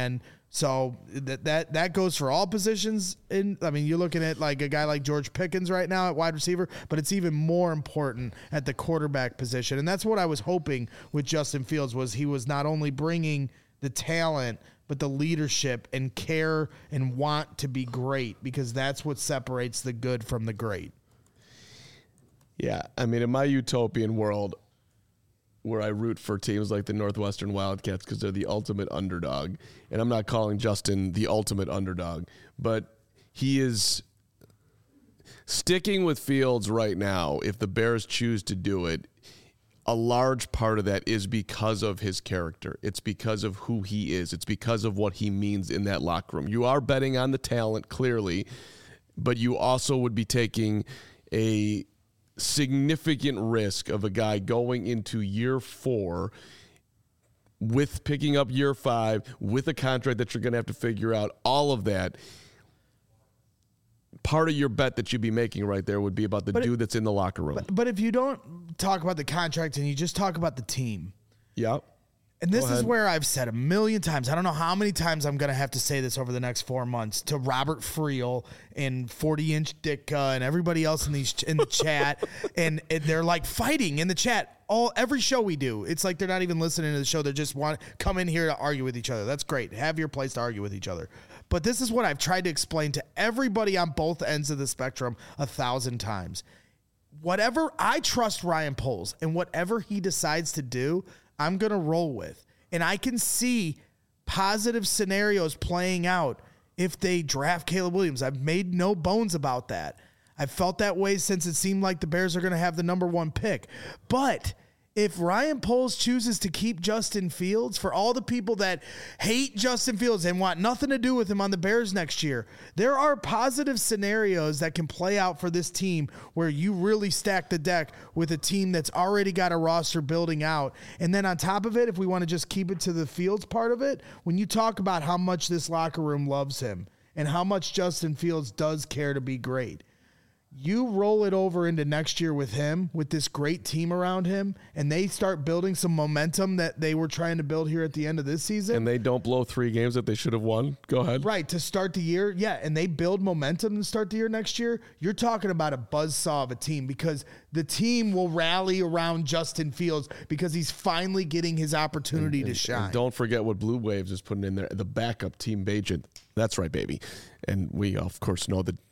Speaker 2: So that that that goes for all positions. In I mean, you're looking at like a guy like George Pickens right now at wide receiver, but it's even more important at the quarterback position. And that's what I was hoping with Justin Fields was he was not only bringing the talent, but the leadership and care and want to be great, because that's what separates the good from the great.
Speaker 1: Yeah, I mean, in my utopian world, where I root for teams like the Northwestern Wildcats because they're the ultimate underdog. And I'm not calling Justin the ultimate underdog, but he is sticking with Fields right now. If the Bears choose to do it, a large part of that is because of his character. It's because of who he is. It's because of what he means in that locker room. You are betting on the talent, clearly, but you also would be taking a significant risk of a guy going into year four with picking up year five with a contract that you're going to have to figure out. All of that, part of your bet that you'd be making right there would be about the but dude it, that's in the locker room.
Speaker 2: But, but if you don't talk about the contract and you just talk about the team.
Speaker 1: Yep.
Speaker 2: And this is where I've said a million times, I don't know how many times I'm going to have to say this over the next four months to Robert Friel and forty-inch Ditka and everybody else in these in the chat. And, and they're like fighting in the chat. All every show we do, it's like they're not even listening to the show. They just want to come in here to argue with each other. That's great. Have your place to argue with each other. But this is what I've tried to explain to everybody on both ends of the spectrum a thousand times. Whatever, I trust Ryan Poles, and whatever he decides to do, I'm going to roll with. And I can see positive scenarios playing out if they draft Caleb Williams. I've made no bones about that. I've felt that way since it seemed like the Bears are going to have the number one pick. But if Ryan Poles chooses to keep Justin Fields, for all the people that hate Justin Fields and want nothing to do with him on the Bears next year, there are positive scenarios that can play out for this team where you really stack the deck with a team that's already got a roster building out. And then on top of it, if we want to just keep it to the Fields part of it, when you talk about how much this locker room loves him and how much Justin Fields does care to be great, you roll it over into next year with him, with this great team around him, and they start building some momentum that they were trying to build here at the end of this season.
Speaker 1: And they don't blow three games that they should have won. Go ahead.
Speaker 2: Right, to start the year. Yeah, and they build momentum to start the year next year. You're talking about a buzzsaw of a team, because the team will rally around Justin Fields because he's finally getting his opportunity
Speaker 1: and,
Speaker 2: to
Speaker 1: and,
Speaker 2: shine.
Speaker 1: And don't forget what Blue Waves is putting in there, the backup team agent. That's right, baby. And we, of course, know that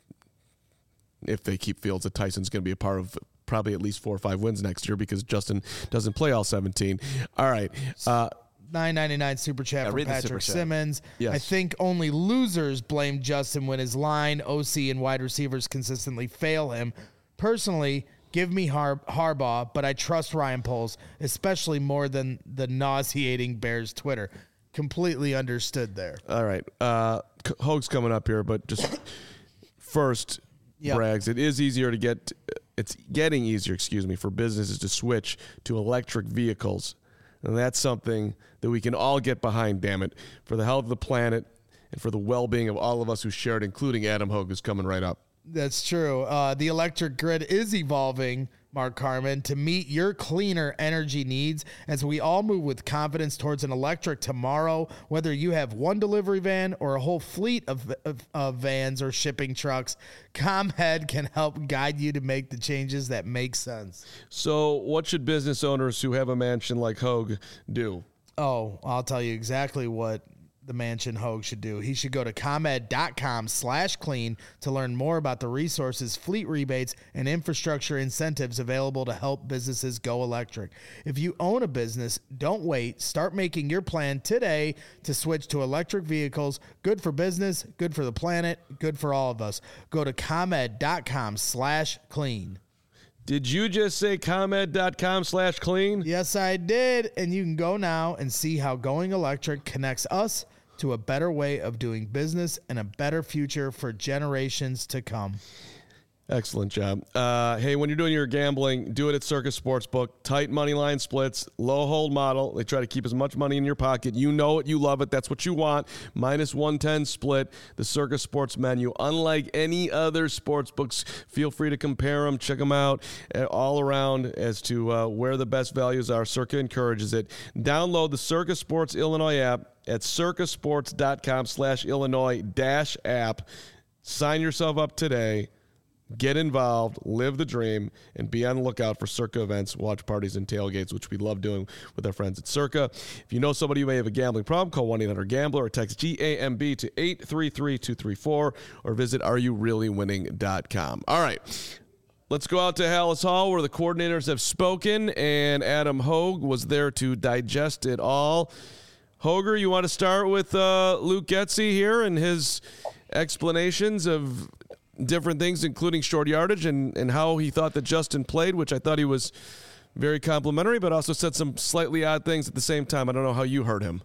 Speaker 1: if they keep Fields, that Tyson's going to be a part of probably at least four or five wins next year because Justin doesn't play all seventeen. All right. Uh,
Speaker 2: nine ninety-nine super chat
Speaker 4: yeah,
Speaker 2: from Patrick Simmons.
Speaker 1: Yes.
Speaker 2: I think only losers blame Justin when his line, O C, and wide receivers consistently fail him. Personally, give me Har- Harbaugh, but I trust Ryan Poles, especially more than the nauseating Bears Twitter. Completely understood there.
Speaker 1: All right. Uh, Hoag's coming up here, but just first... Yep. Brags, it is easier to get, it's getting easier, excuse me, for businesses to switch to electric vehicles. And that's something that we can all get behind, damn it, for the health of the planet and for the well-being of all of us who share it, including Adam Hoag, who's coming right up.
Speaker 2: That's true. Uh, the electric grid is evolving, Mark Carman, to meet your cleaner energy needs as we all move with confidence towards an electric tomorrow. Whether you have one delivery van or a whole fleet of, of, of vans or shipping trucks, ComHead can help guide you to make the changes that make sense.
Speaker 1: So what should business owners who have a mansion like Hoag do?
Speaker 2: Oh, I'll tell you exactly what the mansion Hoag should do. He should go to ComEd.com slash clean to learn more about the resources, fleet rebates, and infrastructure incentives available to help businesses go electric. If you own a business, don't wait. Start making your plan today to switch to electric vehicles. Good for business, good for the planet, good for all of us. Go to ComEd.com slash clean.
Speaker 1: Did you just say ComEd.com slash clean?
Speaker 2: Yes, I did. And you can go now and see how going electric connects us to a better way of doing business and a better future for generations to come.
Speaker 1: Excellent job. Uh, hey, when you're doing your gambling, do it at Circa Sportsbook. Tight money line splits, low hold model. They try to keep as much money in your pocket. You know it. You love it. That's what you want. Minus one ten split, the Circa Sports menu. Unlike any other sports books, feel free to compare them. Check them out uh, all around as to uh, where the best values are. Circa encourages it. Download the Circa Sports Illinois app at circasports.com slash Illinois dash app. Sign yourself up today. Get involved, live the dream, and be on the lookout for Circa events, watch parties, and tailgates, which we love doing with our friends at Circa. If you know somebody who may have a gambling problem, call one eight hundred gambler or text G A M B to eight three three two three four or visit are you really winning dot com. All right. Let's go out to Hallis Hall where the coordinators have spoken, and Adam Hogue was there to digest it all. Hoger, you want to start with uh, Luke Getsy here and his explanations of different things, including short yardage and, and how he thought that Justin played, which I thought he was very complimentary, but also said some slightly odd things at the same time. I don't know how you heard him.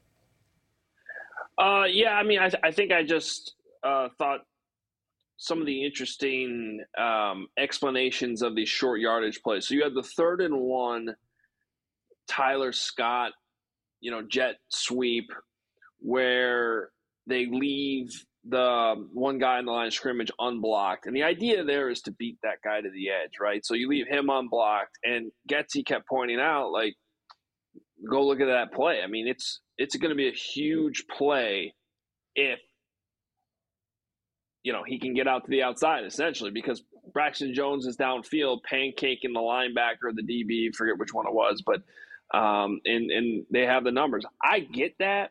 Speaker 8: Uh, yeah, I mean, I, th- I think I just uh, thought some of the interesting um, explanations of these short yardage plays. So you had the third and one, Tyler Scott, you know, jet sweep, where they leave the one guy in the line of scrimmage unblocked. And the idea there is to beat that guy to the edge, right? So you leave him unblocked, and Getsy kept pointing out, like, go look at that play. I mean, it's it's going to be a huge play if, you know, he can get out to the outside, essentially, because Braxton Jones is downfield pancaking the linebacker or the D B, forget which one it was, but um, and, and they have the numbers. I get that.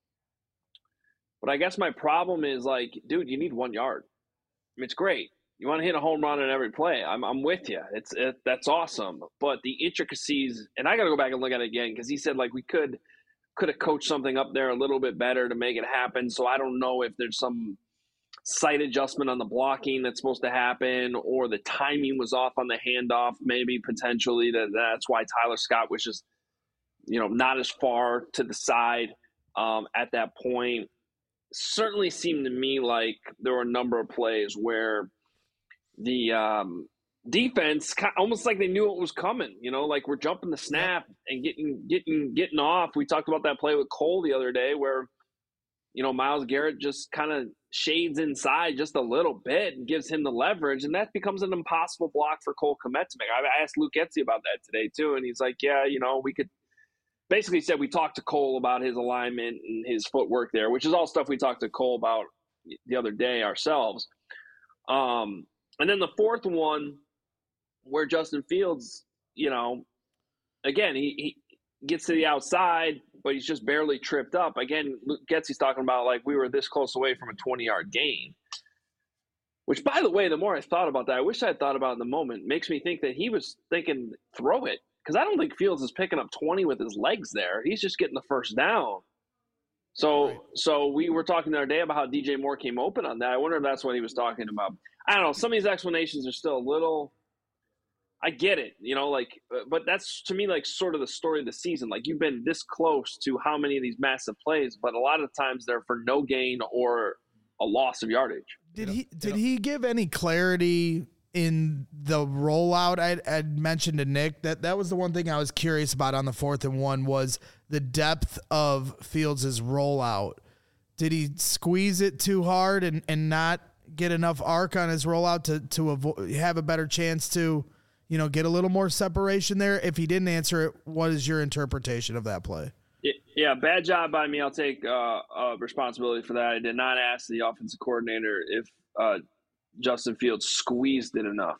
Speaker 8: But I guess my problem is, like, dude, you need one yard. I mean, it's great. You want to hit a home run on every play. I'm I'm with you. It's it, that's awesome. But the intricacies, and I got to go back and look at it again because he said, like, we could could have coached something up there a little bit better to make it happen. So I don't know if there's some slight adjustment on the blocking that's supposed to happen, or the timing was off on the handoff, maybe potentially. That that's why Tyler Scott was just, you know, not as far to the side um, at that point. Certainly seemed to me like there were a number of plays where the um, defense almost like they knew it was coming. You know, like we're jumping the snap and getting getting getting off. We talked about that play with Cole the other day where, you know, Myles Garrett just kind of shades inside just a little bit and gives him the leverage, and that becomes an impossible block for Cole Kmetzik. I asked Luke Getsy about that today too, and he's like, yeah, you know, we could – basically said we talked to Cole about his alignment and his footwork there, which is all stuff we talked to Cole about the other day ourselves. Um, and then the fourth one where Justin Fields, you know, again, he, he gets to the outside, but he's just barely tripped up. Again, Luke Getsy's talking about, like, we were this close away from a twenty-yard gain, which, by the way, the more I thought about that, I wish I had thought about it in the moment, makes me think that he was thinking throw it. Because I don't think Fields is picking up twenty with his legs there. He's just getting the first down. So right. so we were talking the other day about how D J Moore came open on that. I wonder if that's what he was talking about. I don't know. Some of these explanations are still a little – I get it, you know, like – but that's, to me, like sort of the story of the season. Like, you've been this close to how many of these massive plays, but a lot of times they're for no gain or a loss of yardage.
Speaker 2: Did he Did he give any clarity – in the rollout? I I'd mentioned to Nick that that was the one thing I was curious about on the fourth and one was the depth of Fields' rollout. Did he squeeze it too hard and, and not get enough arc on his rollout to, to avoid, have a better chance to, you know, get a little more separation there? If he didn't answer it, what is your interpretation of that play?
Speaker 8: Yeah, bad job by me. I'll take uh, uh, responsibility for that. I did not ask the offensive coordinator if uh, Justin Fields squeezed it enough.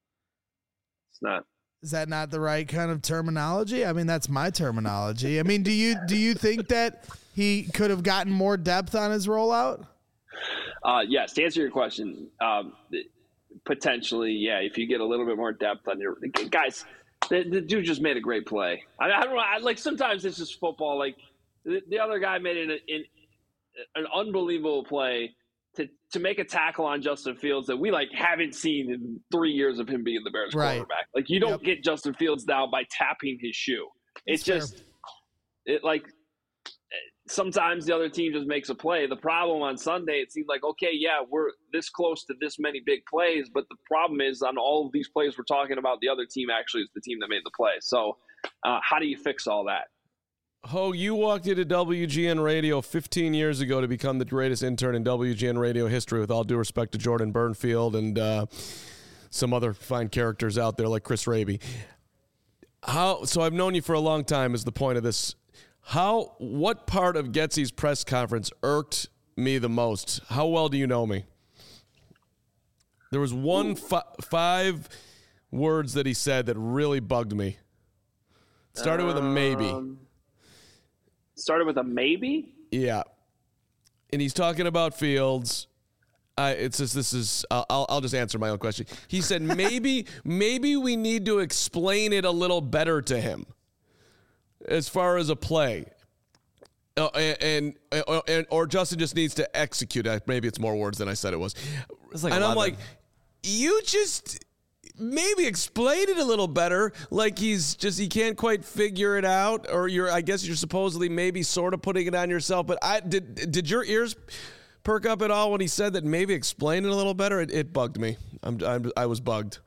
Speaker 8: It's not.
Speaker 2: Is that not the right kind of terminology? I mean, that's my terminology. I mean, do you do you think that he could have gotten more depth on his rollout?
Speaker 8: Uh, yes, to answer your question, um, potentially, yeah. If you get a little bit more depth on your guys, the, the dude just made a great play. I, I don't know. I, like sometimes it's just football. Like the, the other guy made an, an an unbelievable play to to make a tackle on Justin Fields that we like haven't seen in three years of him being the Bears
Speaker 2: right.
Speaker 8: quarterback. Like you don't
Speaker 2: yep.
Speaker 8: get Justin Fields now by tapping his shoe. It's, it's just it like sometimes the other team just makes a play. The problem on Sunday, it seemed like, okay, yeah, we're this close to this many big plays, but the problem is on all of these plays we're talking about, the other team actually is the team that made the play. So uh, how do you fix all that?
Speaker 1: Ho, you walked into W G N Radio fifteen years ago to become the greatest intern in W G N Radio history, with all due respect to Jordan Burnfield and uh, some other fine characters out there like Chris Raby. How? So I've known you for a long time is the point of this. How? What part of Getsy's press conference irked me the most? How well do you know me? There was one fi- five words that he said that really bugged me. It started with a maybe.
Speaker 8: Um, started with a maybe?
Speaker 1: Yeah. And he's talking about Fields. I, it's just, this is, I'll, I'll just answer my own question. He said, maybe, maybe we need to explain it a little better to him as far as a play. Uh, and, and, and, or Justin just needs to execute it. Maybe it's more words than I said it was.
Speaker 4: It's like
Speaker 1: and
Speaker 4: eleven.
Speaker 1: I'm like, you just maybe explain it a little better. Like he's just, he can't quite figure it out, or you're, I guess you're supposedly maybe sort of putting it on yourself. But I did, did your ears perk up at all when he said that maybe explain it a little better? It, it bugged me. I'm, I'm, I was bugged.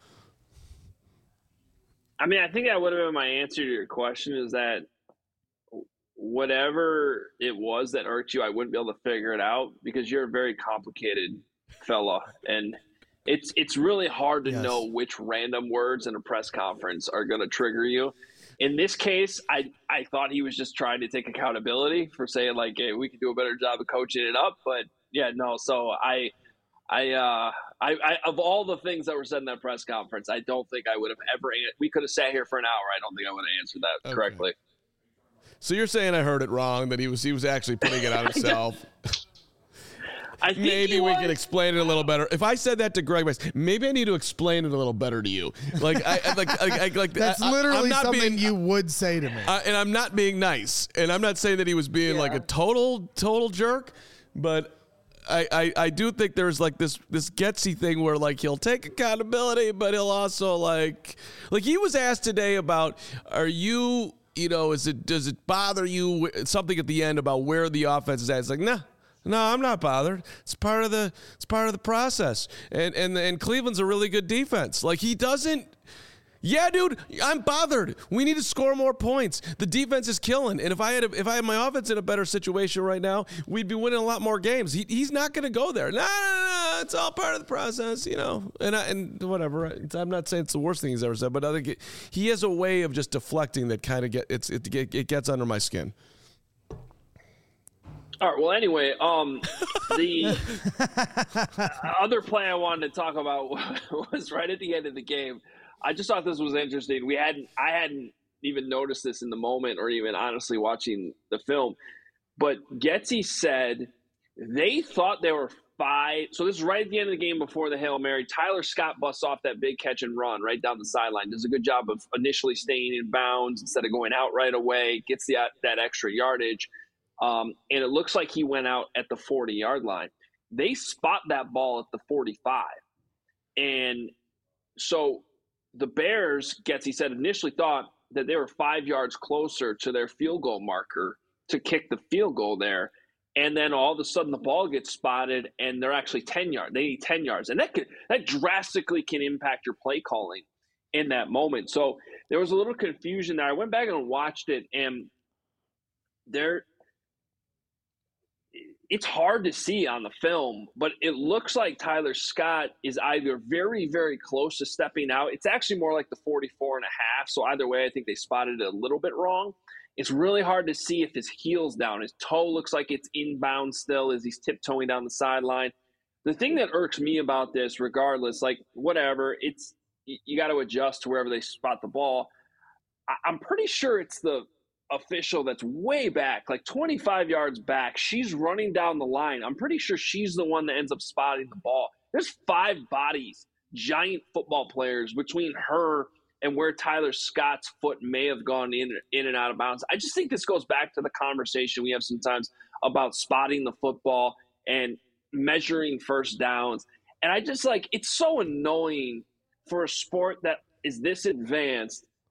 Speaker 8: I mean, I think that would have been my answer to your question, is that whatever it was that irked you, I wouldn't be able to figure it out because you're a very complicated fella. And it's it's really hard to
Speaker 2: Yes.
Speaker 8: know which random words in a press conference are going to trigger you. In this case, I, I thought he was just trying to take accountability for saying, like, hey, we could do a better job of coaching it up. But, yeah, no, so I – I, uh, I, I, of all the things that were said in that press conference, I don't think I would have ever. We could have sat here for an hour. I don't think I would have answered that
Speaker 1: Okay.
Speaker 8: correctly.
Speaker 1: So you're saying I heard it wrong, that he was he was actually putting it on himself.
Speaker 8: I think
Speaker 1: Maybe
Speaker 8: he
Speaker 1: we
Speaker 8: was.
Speaker 1: can explain it a little better. If I said that to Greg, maybe I need to explain it a little better to you. Like, I I- like, I, I, like
Speaker 2: That's
Speaker 1: I, I-
Speaker 2: literally
Speaker 1: I'm not
Speaker 2: something
Speaker 1: being,
Speaker 2: you would say to me.
Speaker 1: I, and I'm not being nice, and I'm not saying that he was being like a total total jerk, but I, I, I do think there's like this this Getsy thing where like he'll take accountability, but he'll also like like he was asked today about, are you you know is it does it bother you something at the end about where the offense is at? It's like, nah. No, I'm not bothered. It's part of the it's part of the process. And and and Cleveland's a really good defense. Like he doesn't. Yeah, dude, I'm bothered. We need to score more points. The defense is killing. And if I had a, if I had my offense in a better situation right now, we'd be winning a lot more games. He, he's not going to go there. No, no, no, it's all part of the process, you know. And I, and whatever. I'm not saying it's the worst thing he's ever said, but I think it, he has a way of just deflecting that kind of get it's it, it gets under my skin.
Speaker 8: All right. Well, anyway, um, the other play I wanted to talk about was right at the end of the game. I just thought this was interesting. We hadn't, I hadn't even noticed this in the moment, or even honestly watching the film. But Getsy said they thought there were five. So this is right at the end of the game before the Hail Mary. Tyler Scott busts off that big catch and run right down the sideline. Does a good job of initially staying in bounds instead of going out right away. Gets the, that extra yardage. Um, and it looks like he went out at the forty-yard line. They spot that ball at the forty-five. And so the Bears, Getsy said, initially thought that they were five yards closer to their field goal marker to kick the field goal there. And then all of a sudden the ball gets spotted and they're actually ten yards. They need ten yards. And that could, that drastically can impact your play calling in that moment. So there was a little confusion there. I went back and watched it, and there – it's hard to see on the film, but it looks like Tyler Scott is either very, very close to stepping out. It's actually more like the forty-four and a half. So either way, I think they spotted it a little bit wrong. It's really hard to see if his heel's down. His toe looks like it's inbound still as he's tiptoeing down the sideline. The thing that irks me about this, regardless, like whatever, it's you got to adjust to wherever they spot the ball. I'm pretty sure it's the official that's way back, like twenty-five yards back. She's running down the line. I'm pretty sure she's the one that ends up spotting the ball. There's five bodies, giant football players, between her and where Tyler Scott's foot may have gone in, in and out of bounds. I just think this goes back to the conversation we have sometimes about spotting the football and measuring first downs. And I just like, it's so annoying for a sport that is this advanced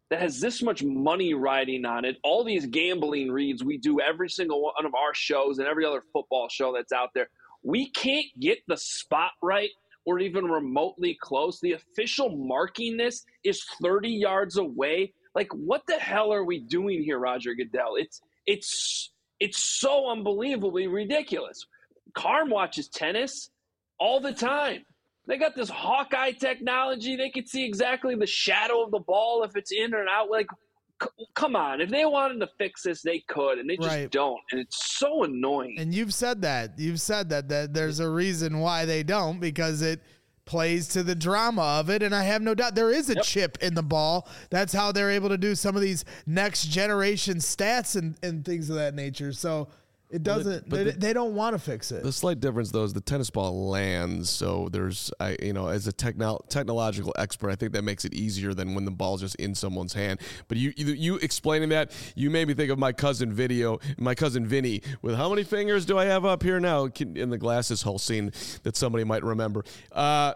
Speaker 8: that has this much money riding on it, all these gambling reads we do every single one of our shows and every other football show that's out there, we can't get the spot right or even remotely close. The official marking this is thirty yards away. Like, what the hell are we doing here, Roger Goodell? It's it's it's so unbelievably ridiculous. Carm watches tennis all the time. They got this Hawkeye technology. They can see exactly the shadow of the ball if it's in or out. Like, c- come on. If they wanted to fix this, they could, and they just
Speaker 2: Right.
Speaker 8: don't. And it's so annoying.
Speaker 2: And you've said that. You've said that, that there's a reason why they don't, because it plays to the drama of it. And I have no doubt there is a
Speaker 8: Yep.
Speaker 2: chip in the ball. That's how they're able to do some of these next generation stats and, and things of that nature. So it doesn't,
Speaker 1: but
Speaker 2: they,
Speaker 1: the-
Speaker 2: they don't want to fix it.
Speaker 1: The slight difference, though, is the tennis ball lands. So there's, I, you know, as a techno- technological expert, I think that makes it easier than when the ball's just in someone's hand. But you, you, you explaining that, you made me think of my cousin Video, my cousin Vinny, with how many fingers do I have up here now? In the glasses hole scene that somebody might remember. Uh,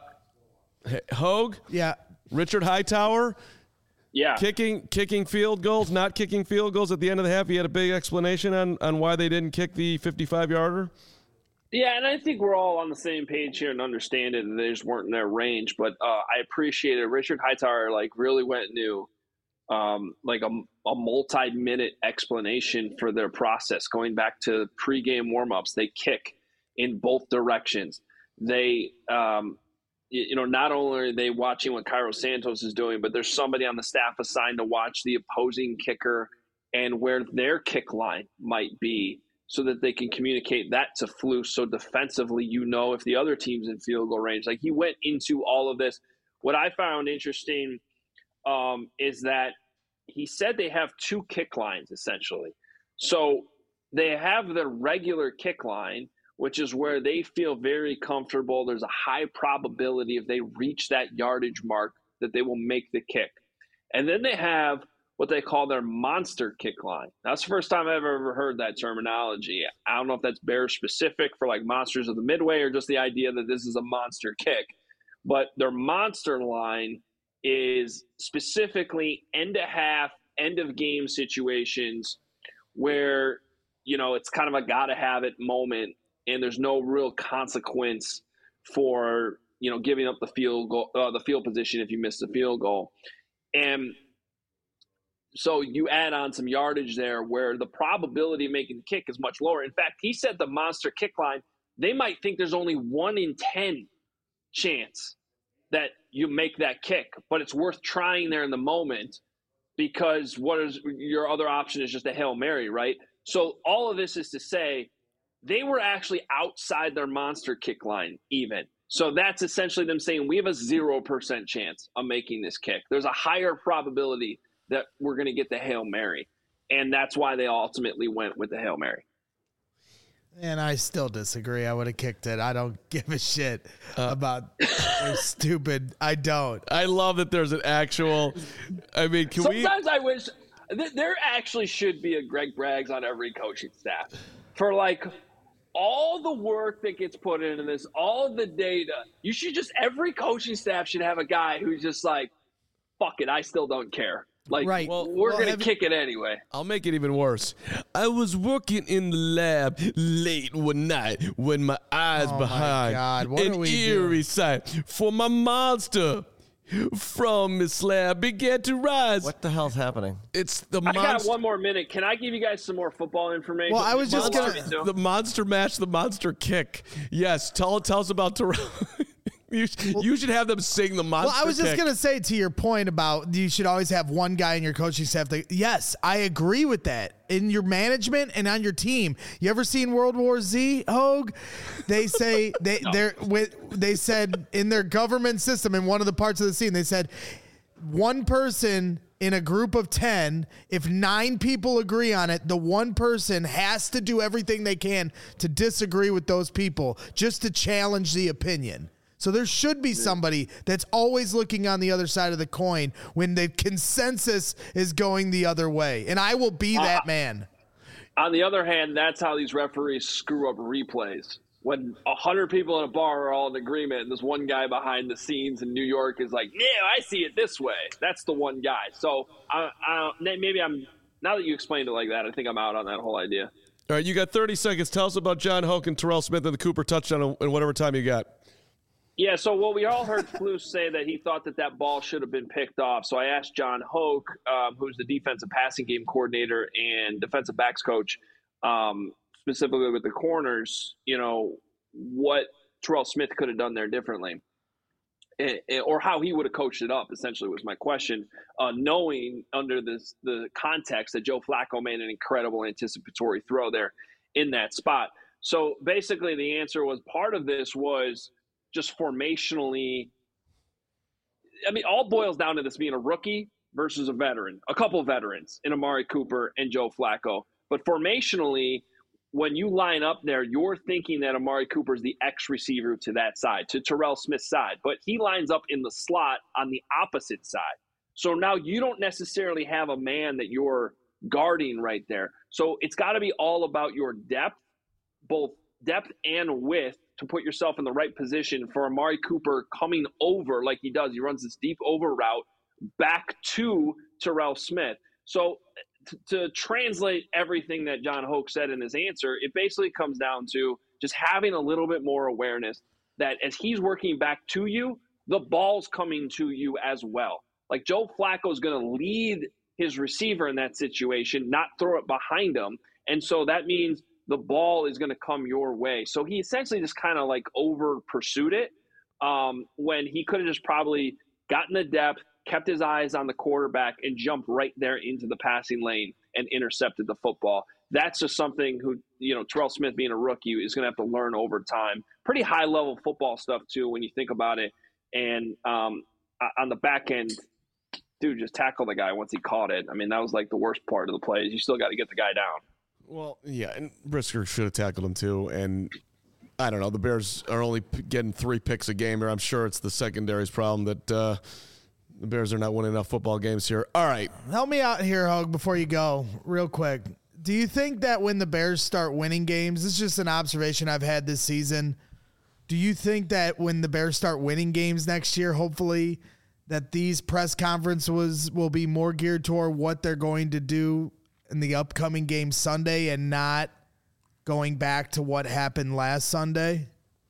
Speaker 1: Hogue,
Speaker 2: Yeah.
Speaker 1: Richard Hightower.
Speaker 8: Yeah.
Speaker 1: Kicking kicking field goals, not kicking field goals at the end of the half. He had a big explanation on, on why they didn't kick the fifty-five-yarder.
Speaker 8: Yeah, and I think we're all on the same page here and understand it, and they just weren't in their range. But uh, I appreciate it. Richard Hightower, like, really went new, um, like a, a multi-minute explanation for their process, going back to pregame warmups. They kick in both directions. They um, – you know, not only are they watching what Cairo Santos is doing, but there's somebody on the staff assigned to watch the opposing kicker and where their kick line might be so that they can communicate that to Flus. So defensively, you know, if the other team's in field goal range. Like, he went into all of this. What I found interesting um, is that he said they have two kick lines, essentially. So they have the regular kick line, which is where they feel very comfortable. There's a high probability if they reach that yardage mark that they will make the kick. And then they have what they call their monster kick line. That's the first time I've ever heard that terminology. I don't know if that's Bears specific for like Monsters of the Midway or just the idea that this is a monster kick. But their monster line is specifically end of half, end of game situations where, you know, it's kind of a gotta have it moment. And there's no real consequence for, you know, giving up the field goal, uh, the field position if you miss the field goal. And so you add on some yardage there where the probability of making the kick is much lower. In fact, he said the monster kick line, they might think there's only one in ten chance that you make that kick, but it's worth trying there in the moment because what is your other option is just a Hail Mary, right? So all of this is to say, they were actually outside their monster kick line even. So that's essentially them saying we have a zero percent chance of making this kick. There's a higher probability that we're going to get the Hail Mary. And that's why they ultimately went with the Hail Mary.
Speaker 2: And I still disagree. I would have kicked it. I don't give a shit uh, about their stupid. I don't.
Speaker 1: I love that there's an actual. I mean, can
Speaker 8: Sometimes
Speaker 1: we?
Speaker 8: Sometimes I wish th- there actually should be a Greg Braggs on every coaching staff for like all the work that gets put into this, all the data. You should just, every coaching staff should have a guy who's just like, fuck it, I still don't care. Like,
Speaker 2: Right.
Speaker 8: well,
Speaker 2: Well,
Speaker 8: we're
Speaker 2: well,
Speaker 8: going
Speaker 2: have
Speaker 8: to
Speaker 2: you-
Speaker 8: kick it anyway.
Speaker 1: I'll make it even worse. I was working in the lab late one night when my eyes
Speaker 2: Oh my
Speaker 1: behind
Speaker 2: God, what
Speaker 1: an
Speaker 2: are we
Speaker 1: eerie
Speaker 2: doing?
Speaker 1: sight for my monster from the slab began to rise.
Speaker 4: What the hell's happening?
Speaker 1: It's the
Speaker 8: I got
Speaker 1: monster.
Speaker 8: one more minute. Can I give you guys some more football information?
Speaker 2: Well, I was just
Speaker 8: Monster-
Speaker 2: gonna-
Speaker 1: The monster match, the monster kick. Yes, tell tell us about Terrell. you, you should have them sing the monster.
Speaker 2: Well, I was just
Speaker 1: kick.
Speaker 2: going to say to your point about you should always have one guy in your coaching staff. That, yes, I agree with that. In your management and on your team. You ever seen World War Z, Hogue? They say they
Speaker 8: No.
Speaker 2: they're with they said in their government system in one of the parts of the scene, they said one person in a group of ten, if nine people agree on it, the one person has to do everything they can to disagree with those people just to challenge the opinion. So there should be somebody that's always looking on the other side of the coin when the consensus is going the other way. And I will be that man.
Speaker 8: On the other hand, that's how these referees screw up replays. when a hundred people in a bar are all in agreement and this one guy behind the scenes in New York is like, yeah, I see it this way. That's the one guy. So I, I maybe I'm, now that you explained it like that, I think I'm out on that whole idea.
Speaker 1: All right, you got thirty seconds. Tell us about John Hoke and Terrell Smith and the Cooper touchdown in whatever time you got.
Speaker 8: Yeah, so well, we all heard Flus say that he thought that that ball should have been picked off. So I asked John Hoke, um, who's the defensive passing game coordinator and defensive backs coach, um, specifically with the corners, you know, what Terrell Smith could have done there differently, and, or how he would have coached it up, essentially was my question, uh, knowing under this, the context that Joe Flacco made an incredible anticipatory throw there in that spot. So basically the answer was part of this was just formationally. I mean, all boils down to this being a rookie versus a veteran, a couple of veterans in Amari Cooper and Joe Flacco. But formationally, when you line up there, you're thinking that Amari Cooper is the X receiver to that side, to Terrell Smith's side, but he lines up in the slot on the opposite side. So now you don't necessarily have a man that you're guarding right there. So it's got to be all about your depth, both depth and width, to put yourself in the right position for Amari Cooper coming over like he does. He runs this deep over route back to Terrell Smith. So t- to translate everything that John Hoke said in his answer, it basically comes down to just having a little bit more awareness that as he's working back to you, the ball's coming to you as well. Like Joe Flacco is going to lead his receiver in that situation, not throw it behind him. And so that means the ball is going to come your way. So he essentially just kind of like over pursued it um, when he could have just probably gotten the depth, kept his eyes on the quarterback, and jumped right there into the passing lane and intercepted the football. That's just something who, you know, Terrell Smith being a rookie is going to have to learn over time. Pretty high level football stuff too, when you think about it. And um, on the back end, dude, just tackle the guy once he caught it. I mean, that was like the worst part of the play. You still got to get the guy down.
Speaker 1: Well, yeah, and Brisker should have tackled him too. And I don't know, the Bears are only p- getting three picks a game here. I'm sure it's the secondary's problem that uh, the Bears are not winning enough football games here. All right.
Speaker 2: Help me out here, Hogue, before you go, real quick. Do you think that when the Bears start winning games, this is just an observation I've had this season, do you think that when the Bears start winning games next year, hopefully, that these press conferences will be more geared toward what they're going to do in the upcoming game Sunday and not going back to what happened last Sunday?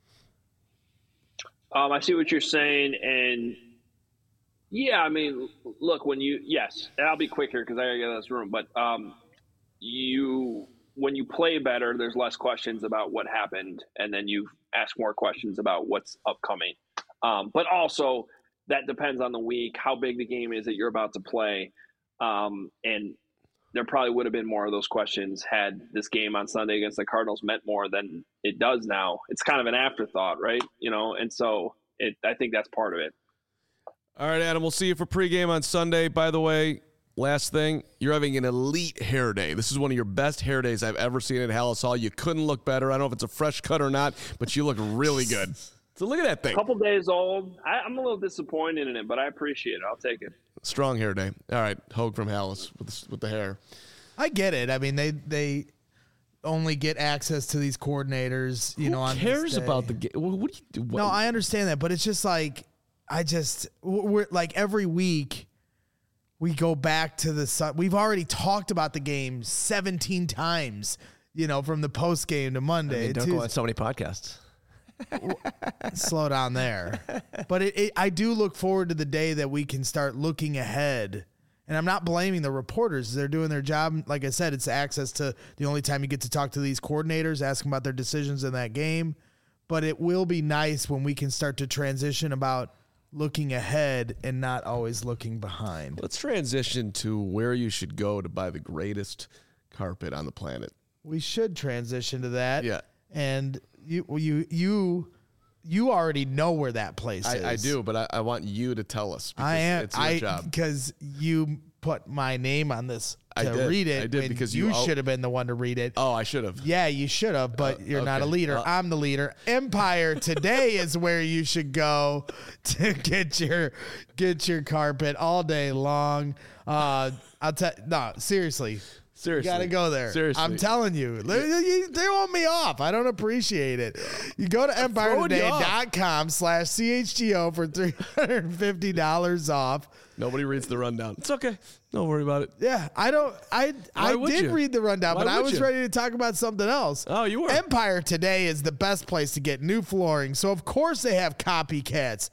Speaker 8: Um, I see what you're saying. And yeah, I mean, look, when you, yes, and I'll be quick here because I gotta get out of this room, but um, you, when you play better, there's less questions about what happened. And then you ask more questions about what's upcoming. Um, but also that depends on the week, how big the game is that you're about to play. Um, and there probably would have been more of those questions had this game on Sunday against the Cardinals meant more than it does now. It's kind of an afterthought, right? You know, and so it, I think that's part of it.
Speaker 1: All right, Adam, we'll see you for pregame on Sunday. By the way, last thing, you're having an elite hair day. This is one of your best hair days I've ever seen at Halas Hall. You couldn't look better. I don't know if it's a fresh cut or not, but you look really good. So look at that thing.
Speaker 8: A couple days old. I, I'm a little disappointed in it, but I appreciate it. I'll take it.
Speaker 1: Strong hair day. All right, Hogue from Halas with the, with the hair.
Speaker 2: I get it. I mean, they they only get access to these coordinators. You
Speaker 1: Who
Speaker 2: know, on
Speaker 1: cares about the game? What do you do?
Speaker 2: No, I understand that, but it's just like I just we're like every week we go back to the sun. We've already talked about the game seventeen times. You know, from the post game to Monday.
Speaker 4: I mean, don't go on so many podcasts.
Speaker 2: Slow down there. But it, it, I do look forward to the day that we can start looking ahead. And I'm not blaming the reporters. They're doing their job. Like I said, it's access to the only time you get to talk to these coordinators, ask them about their decisions in that game. But it will be nice when we can start to transition about looking ahead and not always looking behind.
Speaker 1: Let's transition to where you should go to buy the greatest carpet on the planet.
Speaker 2: We should transition to that.
Speaker 1: Yeah.
Speaker 2: And you you you you already know where that place
Speaker 1: I,
Speaker 2: is.
Speaker 1: I do, but I, I want you to tell us. Because
Speaker 2: I am.
Speaker 1: It's your
Speaker 2: I
Speaker 1: job.
Speaker 2: because you put my name on this to
Speaker 1: I did.
Speaker 2: read it.
Speaker 1: I did
Speaker 2: when
Speaker 1: because
Speaker 2: you,
Speaker 1: you al-
Speaker 2: should have been the one to read it.
Speaker 1: Oh, I should have.
Speaker 2: Yeah, you should have, but
Speaker 1: Uh,
Speaker 2: you're not a
Speaker 1: okay.
Speaker 2: leader.
Speaker 1: Uh,
Speaker 2: I'm the leader. Empire Today is where you should go to get your get your carpet all day long. Uh, I'll tell no seriously.
Speaker 1: Seriously.
Speaker 2: You got to go there.
Speaker 1: Seriously.
Speaker 2: I'm telling you. They, they want me off. I don't appreciate it. You go to empire today dot com slash C H G O for three hundred fifty dollars off.
Speaker 1: Nobody reads the rundown. It's okay. Don't worry about it.
Speaker 2: Yeah, I don't. I
Speaker 1: Why
Speaker 2: I
Speaker 1: would
Speaker 2: did
Speaker 1: you?
Speaker 2: read the rundown,
Speaker 1: Why
Speaker 2: but I
Speaker 1: would
Speaker 2: was
Speaker 1: you?
Speaker 2: ready to talk about something else.
Speaker 1: Oh, you were.
Speaker 2: Empire Today is the best place to get new flooring. So of course they have copycats,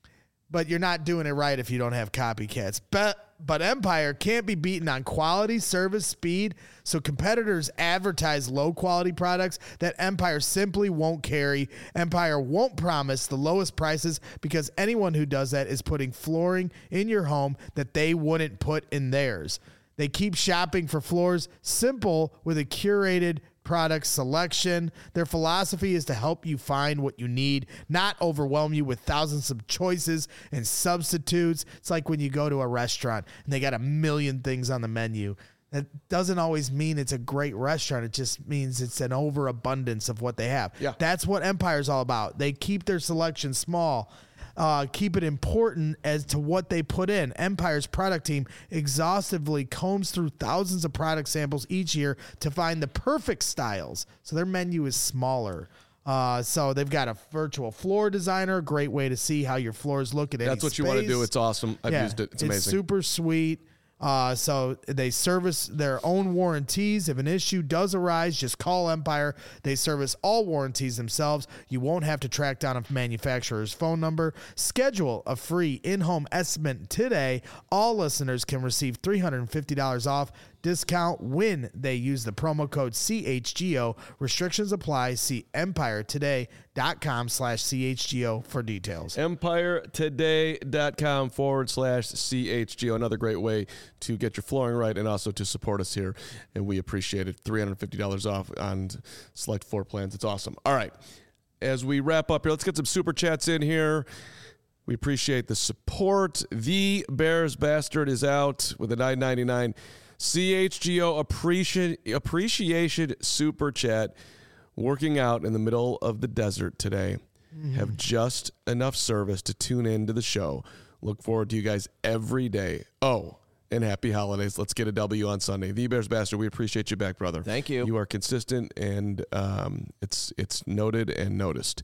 Speaker 2: but you're not doing it right if you don't have copycats. But but Empire can't be beaten on quality, service, speed. So competitors advertise low quality products that Empire simply won't carry. Empire won't promise the lowest prices because anyone who does that is putting flooring in your home that they wouldn't put in theirs. They keep shopping for floors simple with a curated product selection. Their philosophy is to help you find what you need, not overwhelm you with thousands of choices and substitutes. It's like when you go to a restaurant and they got a million things on the menu. That doesn't always mean it's a great restaurant. It just means it's an overabundance of what they have.
Speaker 1: Yeah.
Speaker 2: That's what Empire's all about. They keep their selection small. Uh, keep it important as to what they put in. Empire's product team exhaustively combs through thousands of product samples each year to find the perfect styles. So their menu is smaller. Uh, so they've got a virtual floor designer, a great way to see how your floors look at any
Speaker 1: That's what you want to
Speaker 2: space.
Speaker 1: do. It's awesome. I've
Speaker 2: Yeah,
Speaker 1: used it. It's amazing.
Speaker 2: It's super sweet. Uh, so they service their own warranties. If an issue does arise, just call Empire. They service all warranties themselves. You won't have to track down a manufacturer's phone number. Schedule a free in-home estimate today. All listeners can receive three hundred fifty dollars off discount when they use the promo code C H G O. Restrictions apply. See empire today dot com slash C H G O for details.
Speaker 1: empire today dot com forward slash C H G O. Another great way to get your flooring right and also to support us here. And we appreciate it. three hundred fifty dollars off on select floor plans. It's awesome. All right. As we wrap up here, let's get some super chats in here. We appreciate the support. The Bears Bastard is out with a nine ninety-nine C H G O appreciation appreciation super chat. Working out in the middle of the desert today. Mm. Have just enough service to tune in to the show. Look forward to you guys every day. Oh, and happy holidays. Let's get a W on Sunday. The Bears Bastard, we appreciate you back, brother.
Speaker 4: Thank you.
Speaker 1: You are consistent, and um, it's it's noted and noticed.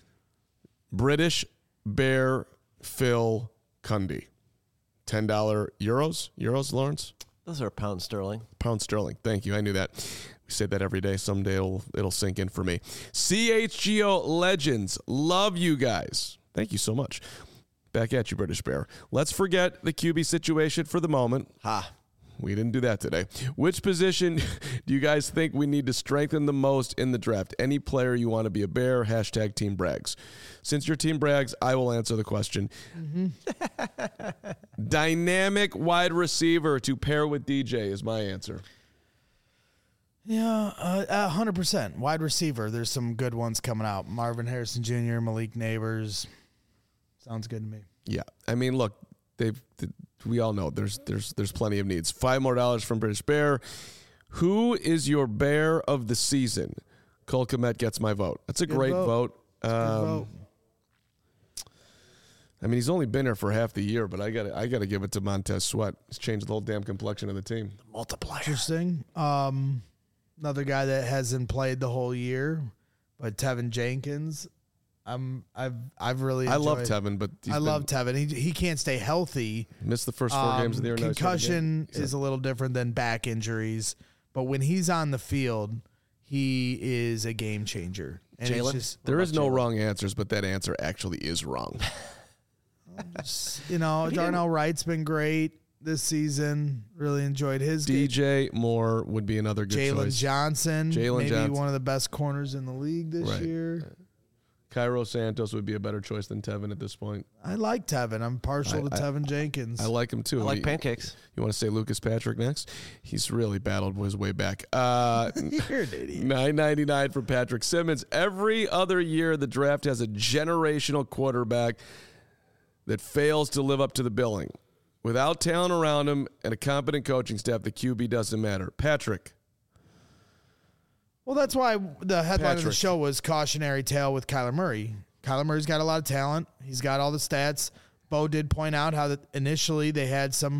Speaker 1: British Bear Phil Cundy. ten dollars euros? Euros, Lawrence?
Speaker 4: Those are pound sterling.
Speaker 1: Pound sterling. Thank you. I knew that. We say that every day. Someday it'll, it'll sink in for me. C H G O Legends. Love you guys. Thank you so much. Back at you, British Bear. Let's forget the Q B situation for the moment.
Speaker 4: Ha.
Speaker 1: We didn't do that today. Which position do you guys think we need to strengthen the most in the draft? Any player you want to be a Bear? Hashtag Team Brags. Since your Team Brags, I will answer the question. Mm-hmm. Dynamic wide receiver to pair with D J is my answer.
Speaker 2: Yeah, uh, one hundred percent. Wide receiver. There's some good ones coming out. Marvin Harrison Junior, Malik Neighbors. Sounds good to me.
Speaker 1: Yeah. I mean, look, they've we all know there's there's there's plenty of needs. Five more dollars from British Bear. Who is your Bear of the season? Cole Kmet gets my vote. That's a
Speaker 2: Good
Speaker 1: great
Speaker 2: vote.
Speaker 1: vote. Um,
Speaker 2: vote.
Speaker 1: I mean, he's only been here for half the year, but I got I got to give it to Montez Sweat. He's changed the whole damn complexion of the team.
Speaker 4: Multiplier.
Speaker 2: Interesting. Um, another guy that hasn't played the whole year, but Tevin Jenkins. I'm I've I've really
Speaker 1: I love
Speaker 2: enjoyed-
Speaker 1: Tevin, but he's
Speaker 2: I
Speaker 1: been-
Speaker 2: love Tevin. He he can't stay healthy.
Speaker 1: missed the first four
Speaker 2: Um,
Speaker 1: games of the year. now he's got a game.
Speaker 2: concussion is a little different than back injuries, but when he's on the field, he is a game changer. And it's
Speaker 4: Jalen?
Speaker 2: just,
Speaker 1: There is no wrong answers, but that answer actually is wrong.
Speaker 2: you know, Darnell Wright's been great this season. Really enjoyed his
Speaker 1: D
Speaker 2: game.
Speaker 1: J Moore would be another good
Speaker 2: Jalen
Speaker 1: choice.
Speaker 2: Johnson,
Speaker 1: Jalen
Speaker 2: maybe
Speaker 1: Johnson.
Speaker 2: one of the best corners in the league this
Speaker 1: Right.
Speaker 2: year.
Speaker 1: Cairo Santos would be a better choice than Tevin at this point.
Speaker 2: I like Tevin. I'm partial
Speaker 1: I-
Speaker 2: to
Speaker 1: I-
Speaker 2: Tevin Jenkins.
Speaker 1: I like him too.
Speaker 4: I like
Speaker 1: He-
Speaker 4: pancakes.
Speaker 1: You want to say Lucas Patrick next? He's really battled his way back. Uh,
Speaker 2: You're an idiot.
Speaker 1: nine ninety-nine for Patrick Simmons. Every other year, the draft has a generational quarterback that fails to live up to the billing. Without talent around him and a competent coaching staff, the Q B doesn't matter. Patrick.
Speaker 2: Well, that's why the headline of the
Speaker 1: Patrick.
Speaker 2: show was cautionary tale with Kyler Murray. Kyler Murray's got a lot of talent. He's got all the stats. Bo did point out how that initially they had some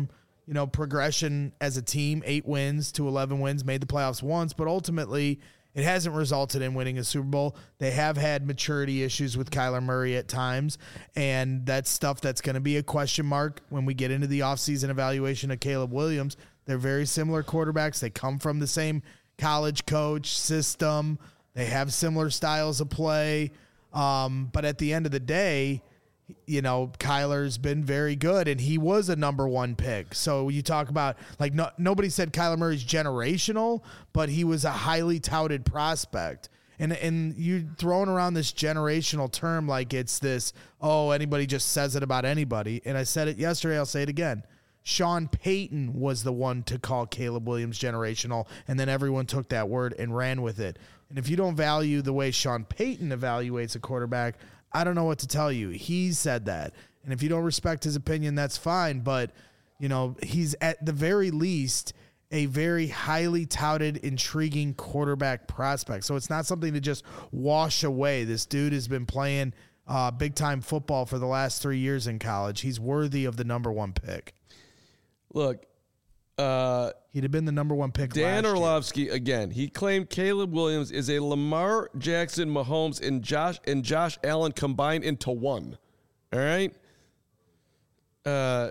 Speaker 2: you know, progression as a team, eight wins to eleven wins, made the playoffs once, but ultimately it hasn't resulted in winning a Super Bowl. They have had maturity issues with Kyler Murray at times, and that's stuff that's going to be a question mark when we get into the offseason evaluation of Caleb Williams. They're very similar quarterbacks. They come from the same college coach system. They have similar styles of play. Um, but at the end of the day, you know, Kyler's been very good, and he was a number one pick. So you talk about, like, no, nobody said Kyler Murray's generational, but he was a highly touted prospect. And and you throwing around this generational term like it's this, oh, anybody just says it about anybody. And I said it yesterday, I'll say it again. Sean Payton was the one to call Caleb Williams generational, and then everyone took that word and ran with it. And if you don't value the way Sean Payton evaluates a quarterback, I don't know what to tell you. He said that. And if you don't respect his opinion, that's fine. But, you know, he's at the very least a very highly touted, intriguing quarterback prospect. So it's not something to just wash away. This dude has been playing uh, big-time football for the last three years in college. He's worthy of the number one pick.
Speaker 1: Look, uh,
Speaker 2: he'd have been the number one pick.
Speaker 1: Dan
Speaker 2: last
Speaker 1: Orlovsky, year. Again, he claimed Caleb Williams is a Lamar Jackson, Mahomes, and Josh and Josh Allen combined into one. All right, uh,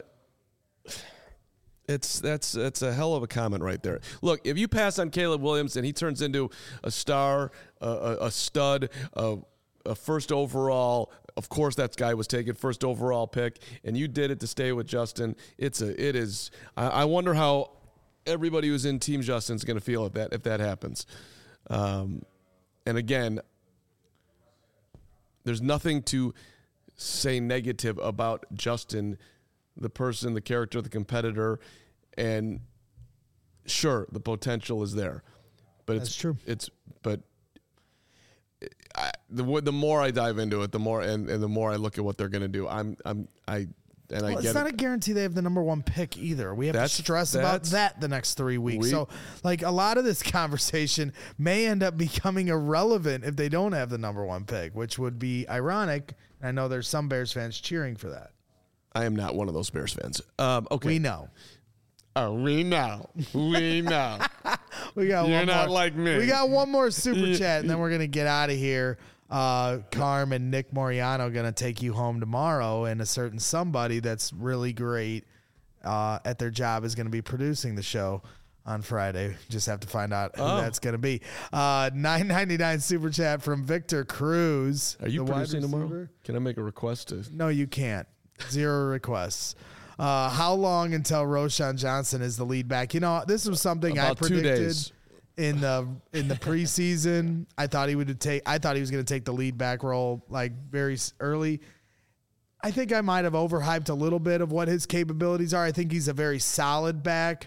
Speaker 1: it's that's that's a hell of a comment right there. Look, if you pass on Caleb Williams and he turns into a star, a, a, a stud, a, a first overall. Of course, that guy was taken first overall pick, and you did it to stay with Justin. It's a, it is. I, I wonder how everybody who's in Team Justin is going to feel if that if that happens. Um, and again, there's nothing to say negative about Justin, the person, the character, the competitor, and sure, the potential is there. But
Speaker 2: That's
Speaker 1: it's
Speaker 2: true.
Speaker 1: It's but. I, the the more I dive into it, the more and, and the more I look at what they're going to do. I'm I'm I and I
Speaker 2: well,
Speaker 1: get
Speaker 2: it's not
Speaker 1: it.
Speaker 2: a guarantee they have the number one pick either. We have
Speaker 1: That's-
Speaker 2: to stress about
Speaker 1: that's-
Speaker 2: that the next three weeks.
Speaker 1: We-
Speaker 2: so, like, a lot of this conversation may end up becoming irrelevant if they don't have the number one pick, which would be ironic. I know there's some Bears fans cheering for that.
Speaker 1: I am not one of those Bears fans. Um, okay,
Speaker 2: We know.
Speaker 1: Oh, we know. We know.
Speaker 2: We got
Speaker 1: You're
Speaker 2: one
Speaker 1: not
Speaker 2: more.
Speaker 1: like me.
Speaker 2: We got one more super chat, and then we're gonna get out of here. Uh, Carm and Nick Moriano gonna take you home tomorrow, and a certain somebody that's really great uh, at their job is gonna be producing the show on Friday. Just have to find out who
Speaker 1: Oh.
Speaker 2: that's gonna be. Uh, nine ninety-nine super chat from Victor Cruz.
Speaker 1: Are you
Speaker 2: the wide
Speaker 1: producing tomorrow?
Speaker 2: receiver.
Speaker 1: Can I make a request to?
Speaker 2: No, you can't. Zero requests. Uh, how long until Roshan Johnson is the lead back? You know, this was something I
Speaker 1: About two
Speaker 2: predicted
Speaker 1: days.
Speaker 2: in the in the preseason. I thought he would take. I thought he was going to take the lead back role like very s- early. I think I might have overhyped a little bit of what his capabilities are. I think he's a very solid back.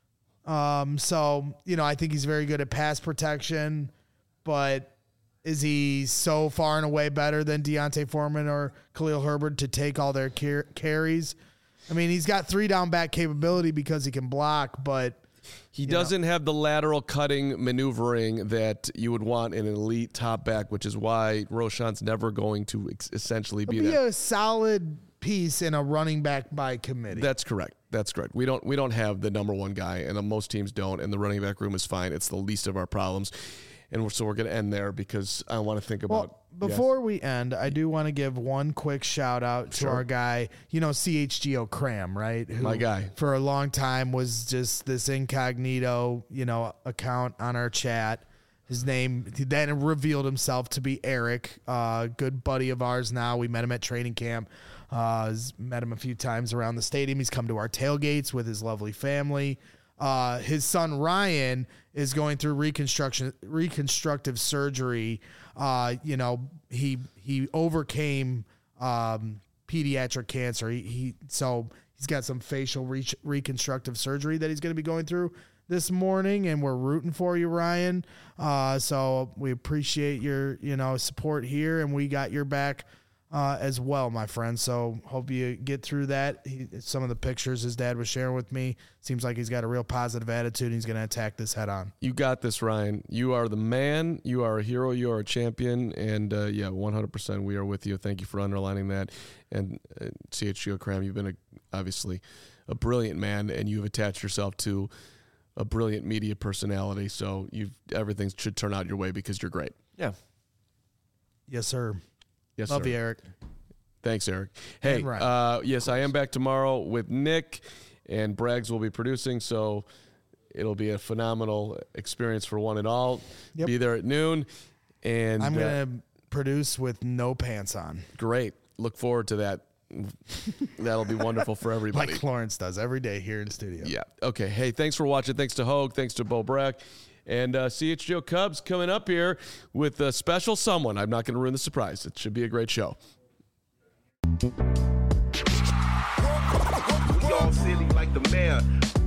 Speaker 2: Um, so you know, I think he's very good at pass protection, but is he so far and away better than Deontay Foreman or Khalil Herbert to take all their car- carries? I mean, he's got three down back capability because he can block, but
Speaker 1: He doesn't have the lateral cutting maneuvering that you would want in an elite top back, which is why Roshan's never going to ex- essentially be
Speaker 2: be
Speaker 1: that.
Speaker 2: a solid piece in a running back by committee.
Speaker 1: That's correct. That's correct. We don't we don't have the number one guy, and uh, most teams don't. And the running back room is fine. It's the least of our problems, and we're, so we're going to end there because I want to think about.
Speaker 2: Well, before we end, I do want to give one quick shout out to
Speaker 1: Sure.
Speaker 2: our guy, you know, C H G O Cram, right? Who
Speaker 1: My guy.
Speaker 2: For a long time was just this incognito, you know, account on our chat. His name he then revealed himself to be Eric, uh, good buddy of ours now. We met him at training camp. Uh, has met him a few times around the stadium. He's come to our tailgates with his lovely family. Uh, his son Ryan is going through reconstruction, reconstructive surgery. Uh, you know, he he overcame um, pediatric cancer. He, he so he's got some facial re- reconstructive surgery that he's going to be going through this morning, and we're rooting for you, Ryan. Uh, so we appreciate your you know support here, and we got your back. Uh, as well, my friend. So hope you get through that. He, some of the pictures his dad was sharing with me seems like he's got a real positive attitude. And he's going to attack this head on.
Speaker 1: You got this, Ryan. You are the man. You are a hero. You are a champion. And uh, yeah, one hundred percent we are with you. Thank you for underlining that. And uh, C H G O Cram, you've been a, obviously a brilliant man, and you've attached yourself to a brilliant media personality. So you've everything should turn out your way because you're great.
Speaker 4: Yeah.
Speaker 2: Yes, sir.
Speaker 1: Yes,
Speaker 2: Love
Speaker 1: sir.
Speaker 2: you, Eric.
Speaker 1: Thanks, Eric. Hey,
Speaker 2: And Ryan.
Speaker 1: uh, yes, I am back tomorrow with Nick, and Braggs will be producing, so it'll be a phenomenal experience for one and all.
Speaker 2: Yep.
Speaker 1: Be there at noon, and
Speaker 2: I'm
Speaker 1: uh,
Speaker 2: going to produce with no pants on.
Speaker 1: great. Look forward to that. That'll be wonderful for everybody.
Speaker 2: Like Lawrence does every day here in studio.
Speaker 1: Yeah. Okay. Hey, thanks for watching. Thanks to Hogue. Thanks to Bo Brack. And uh, C H G O Cubs coming up here with a special someone. I'm not going to ruin the surprise. It should be a great show.
Speaker 9: We all silly like the mayor.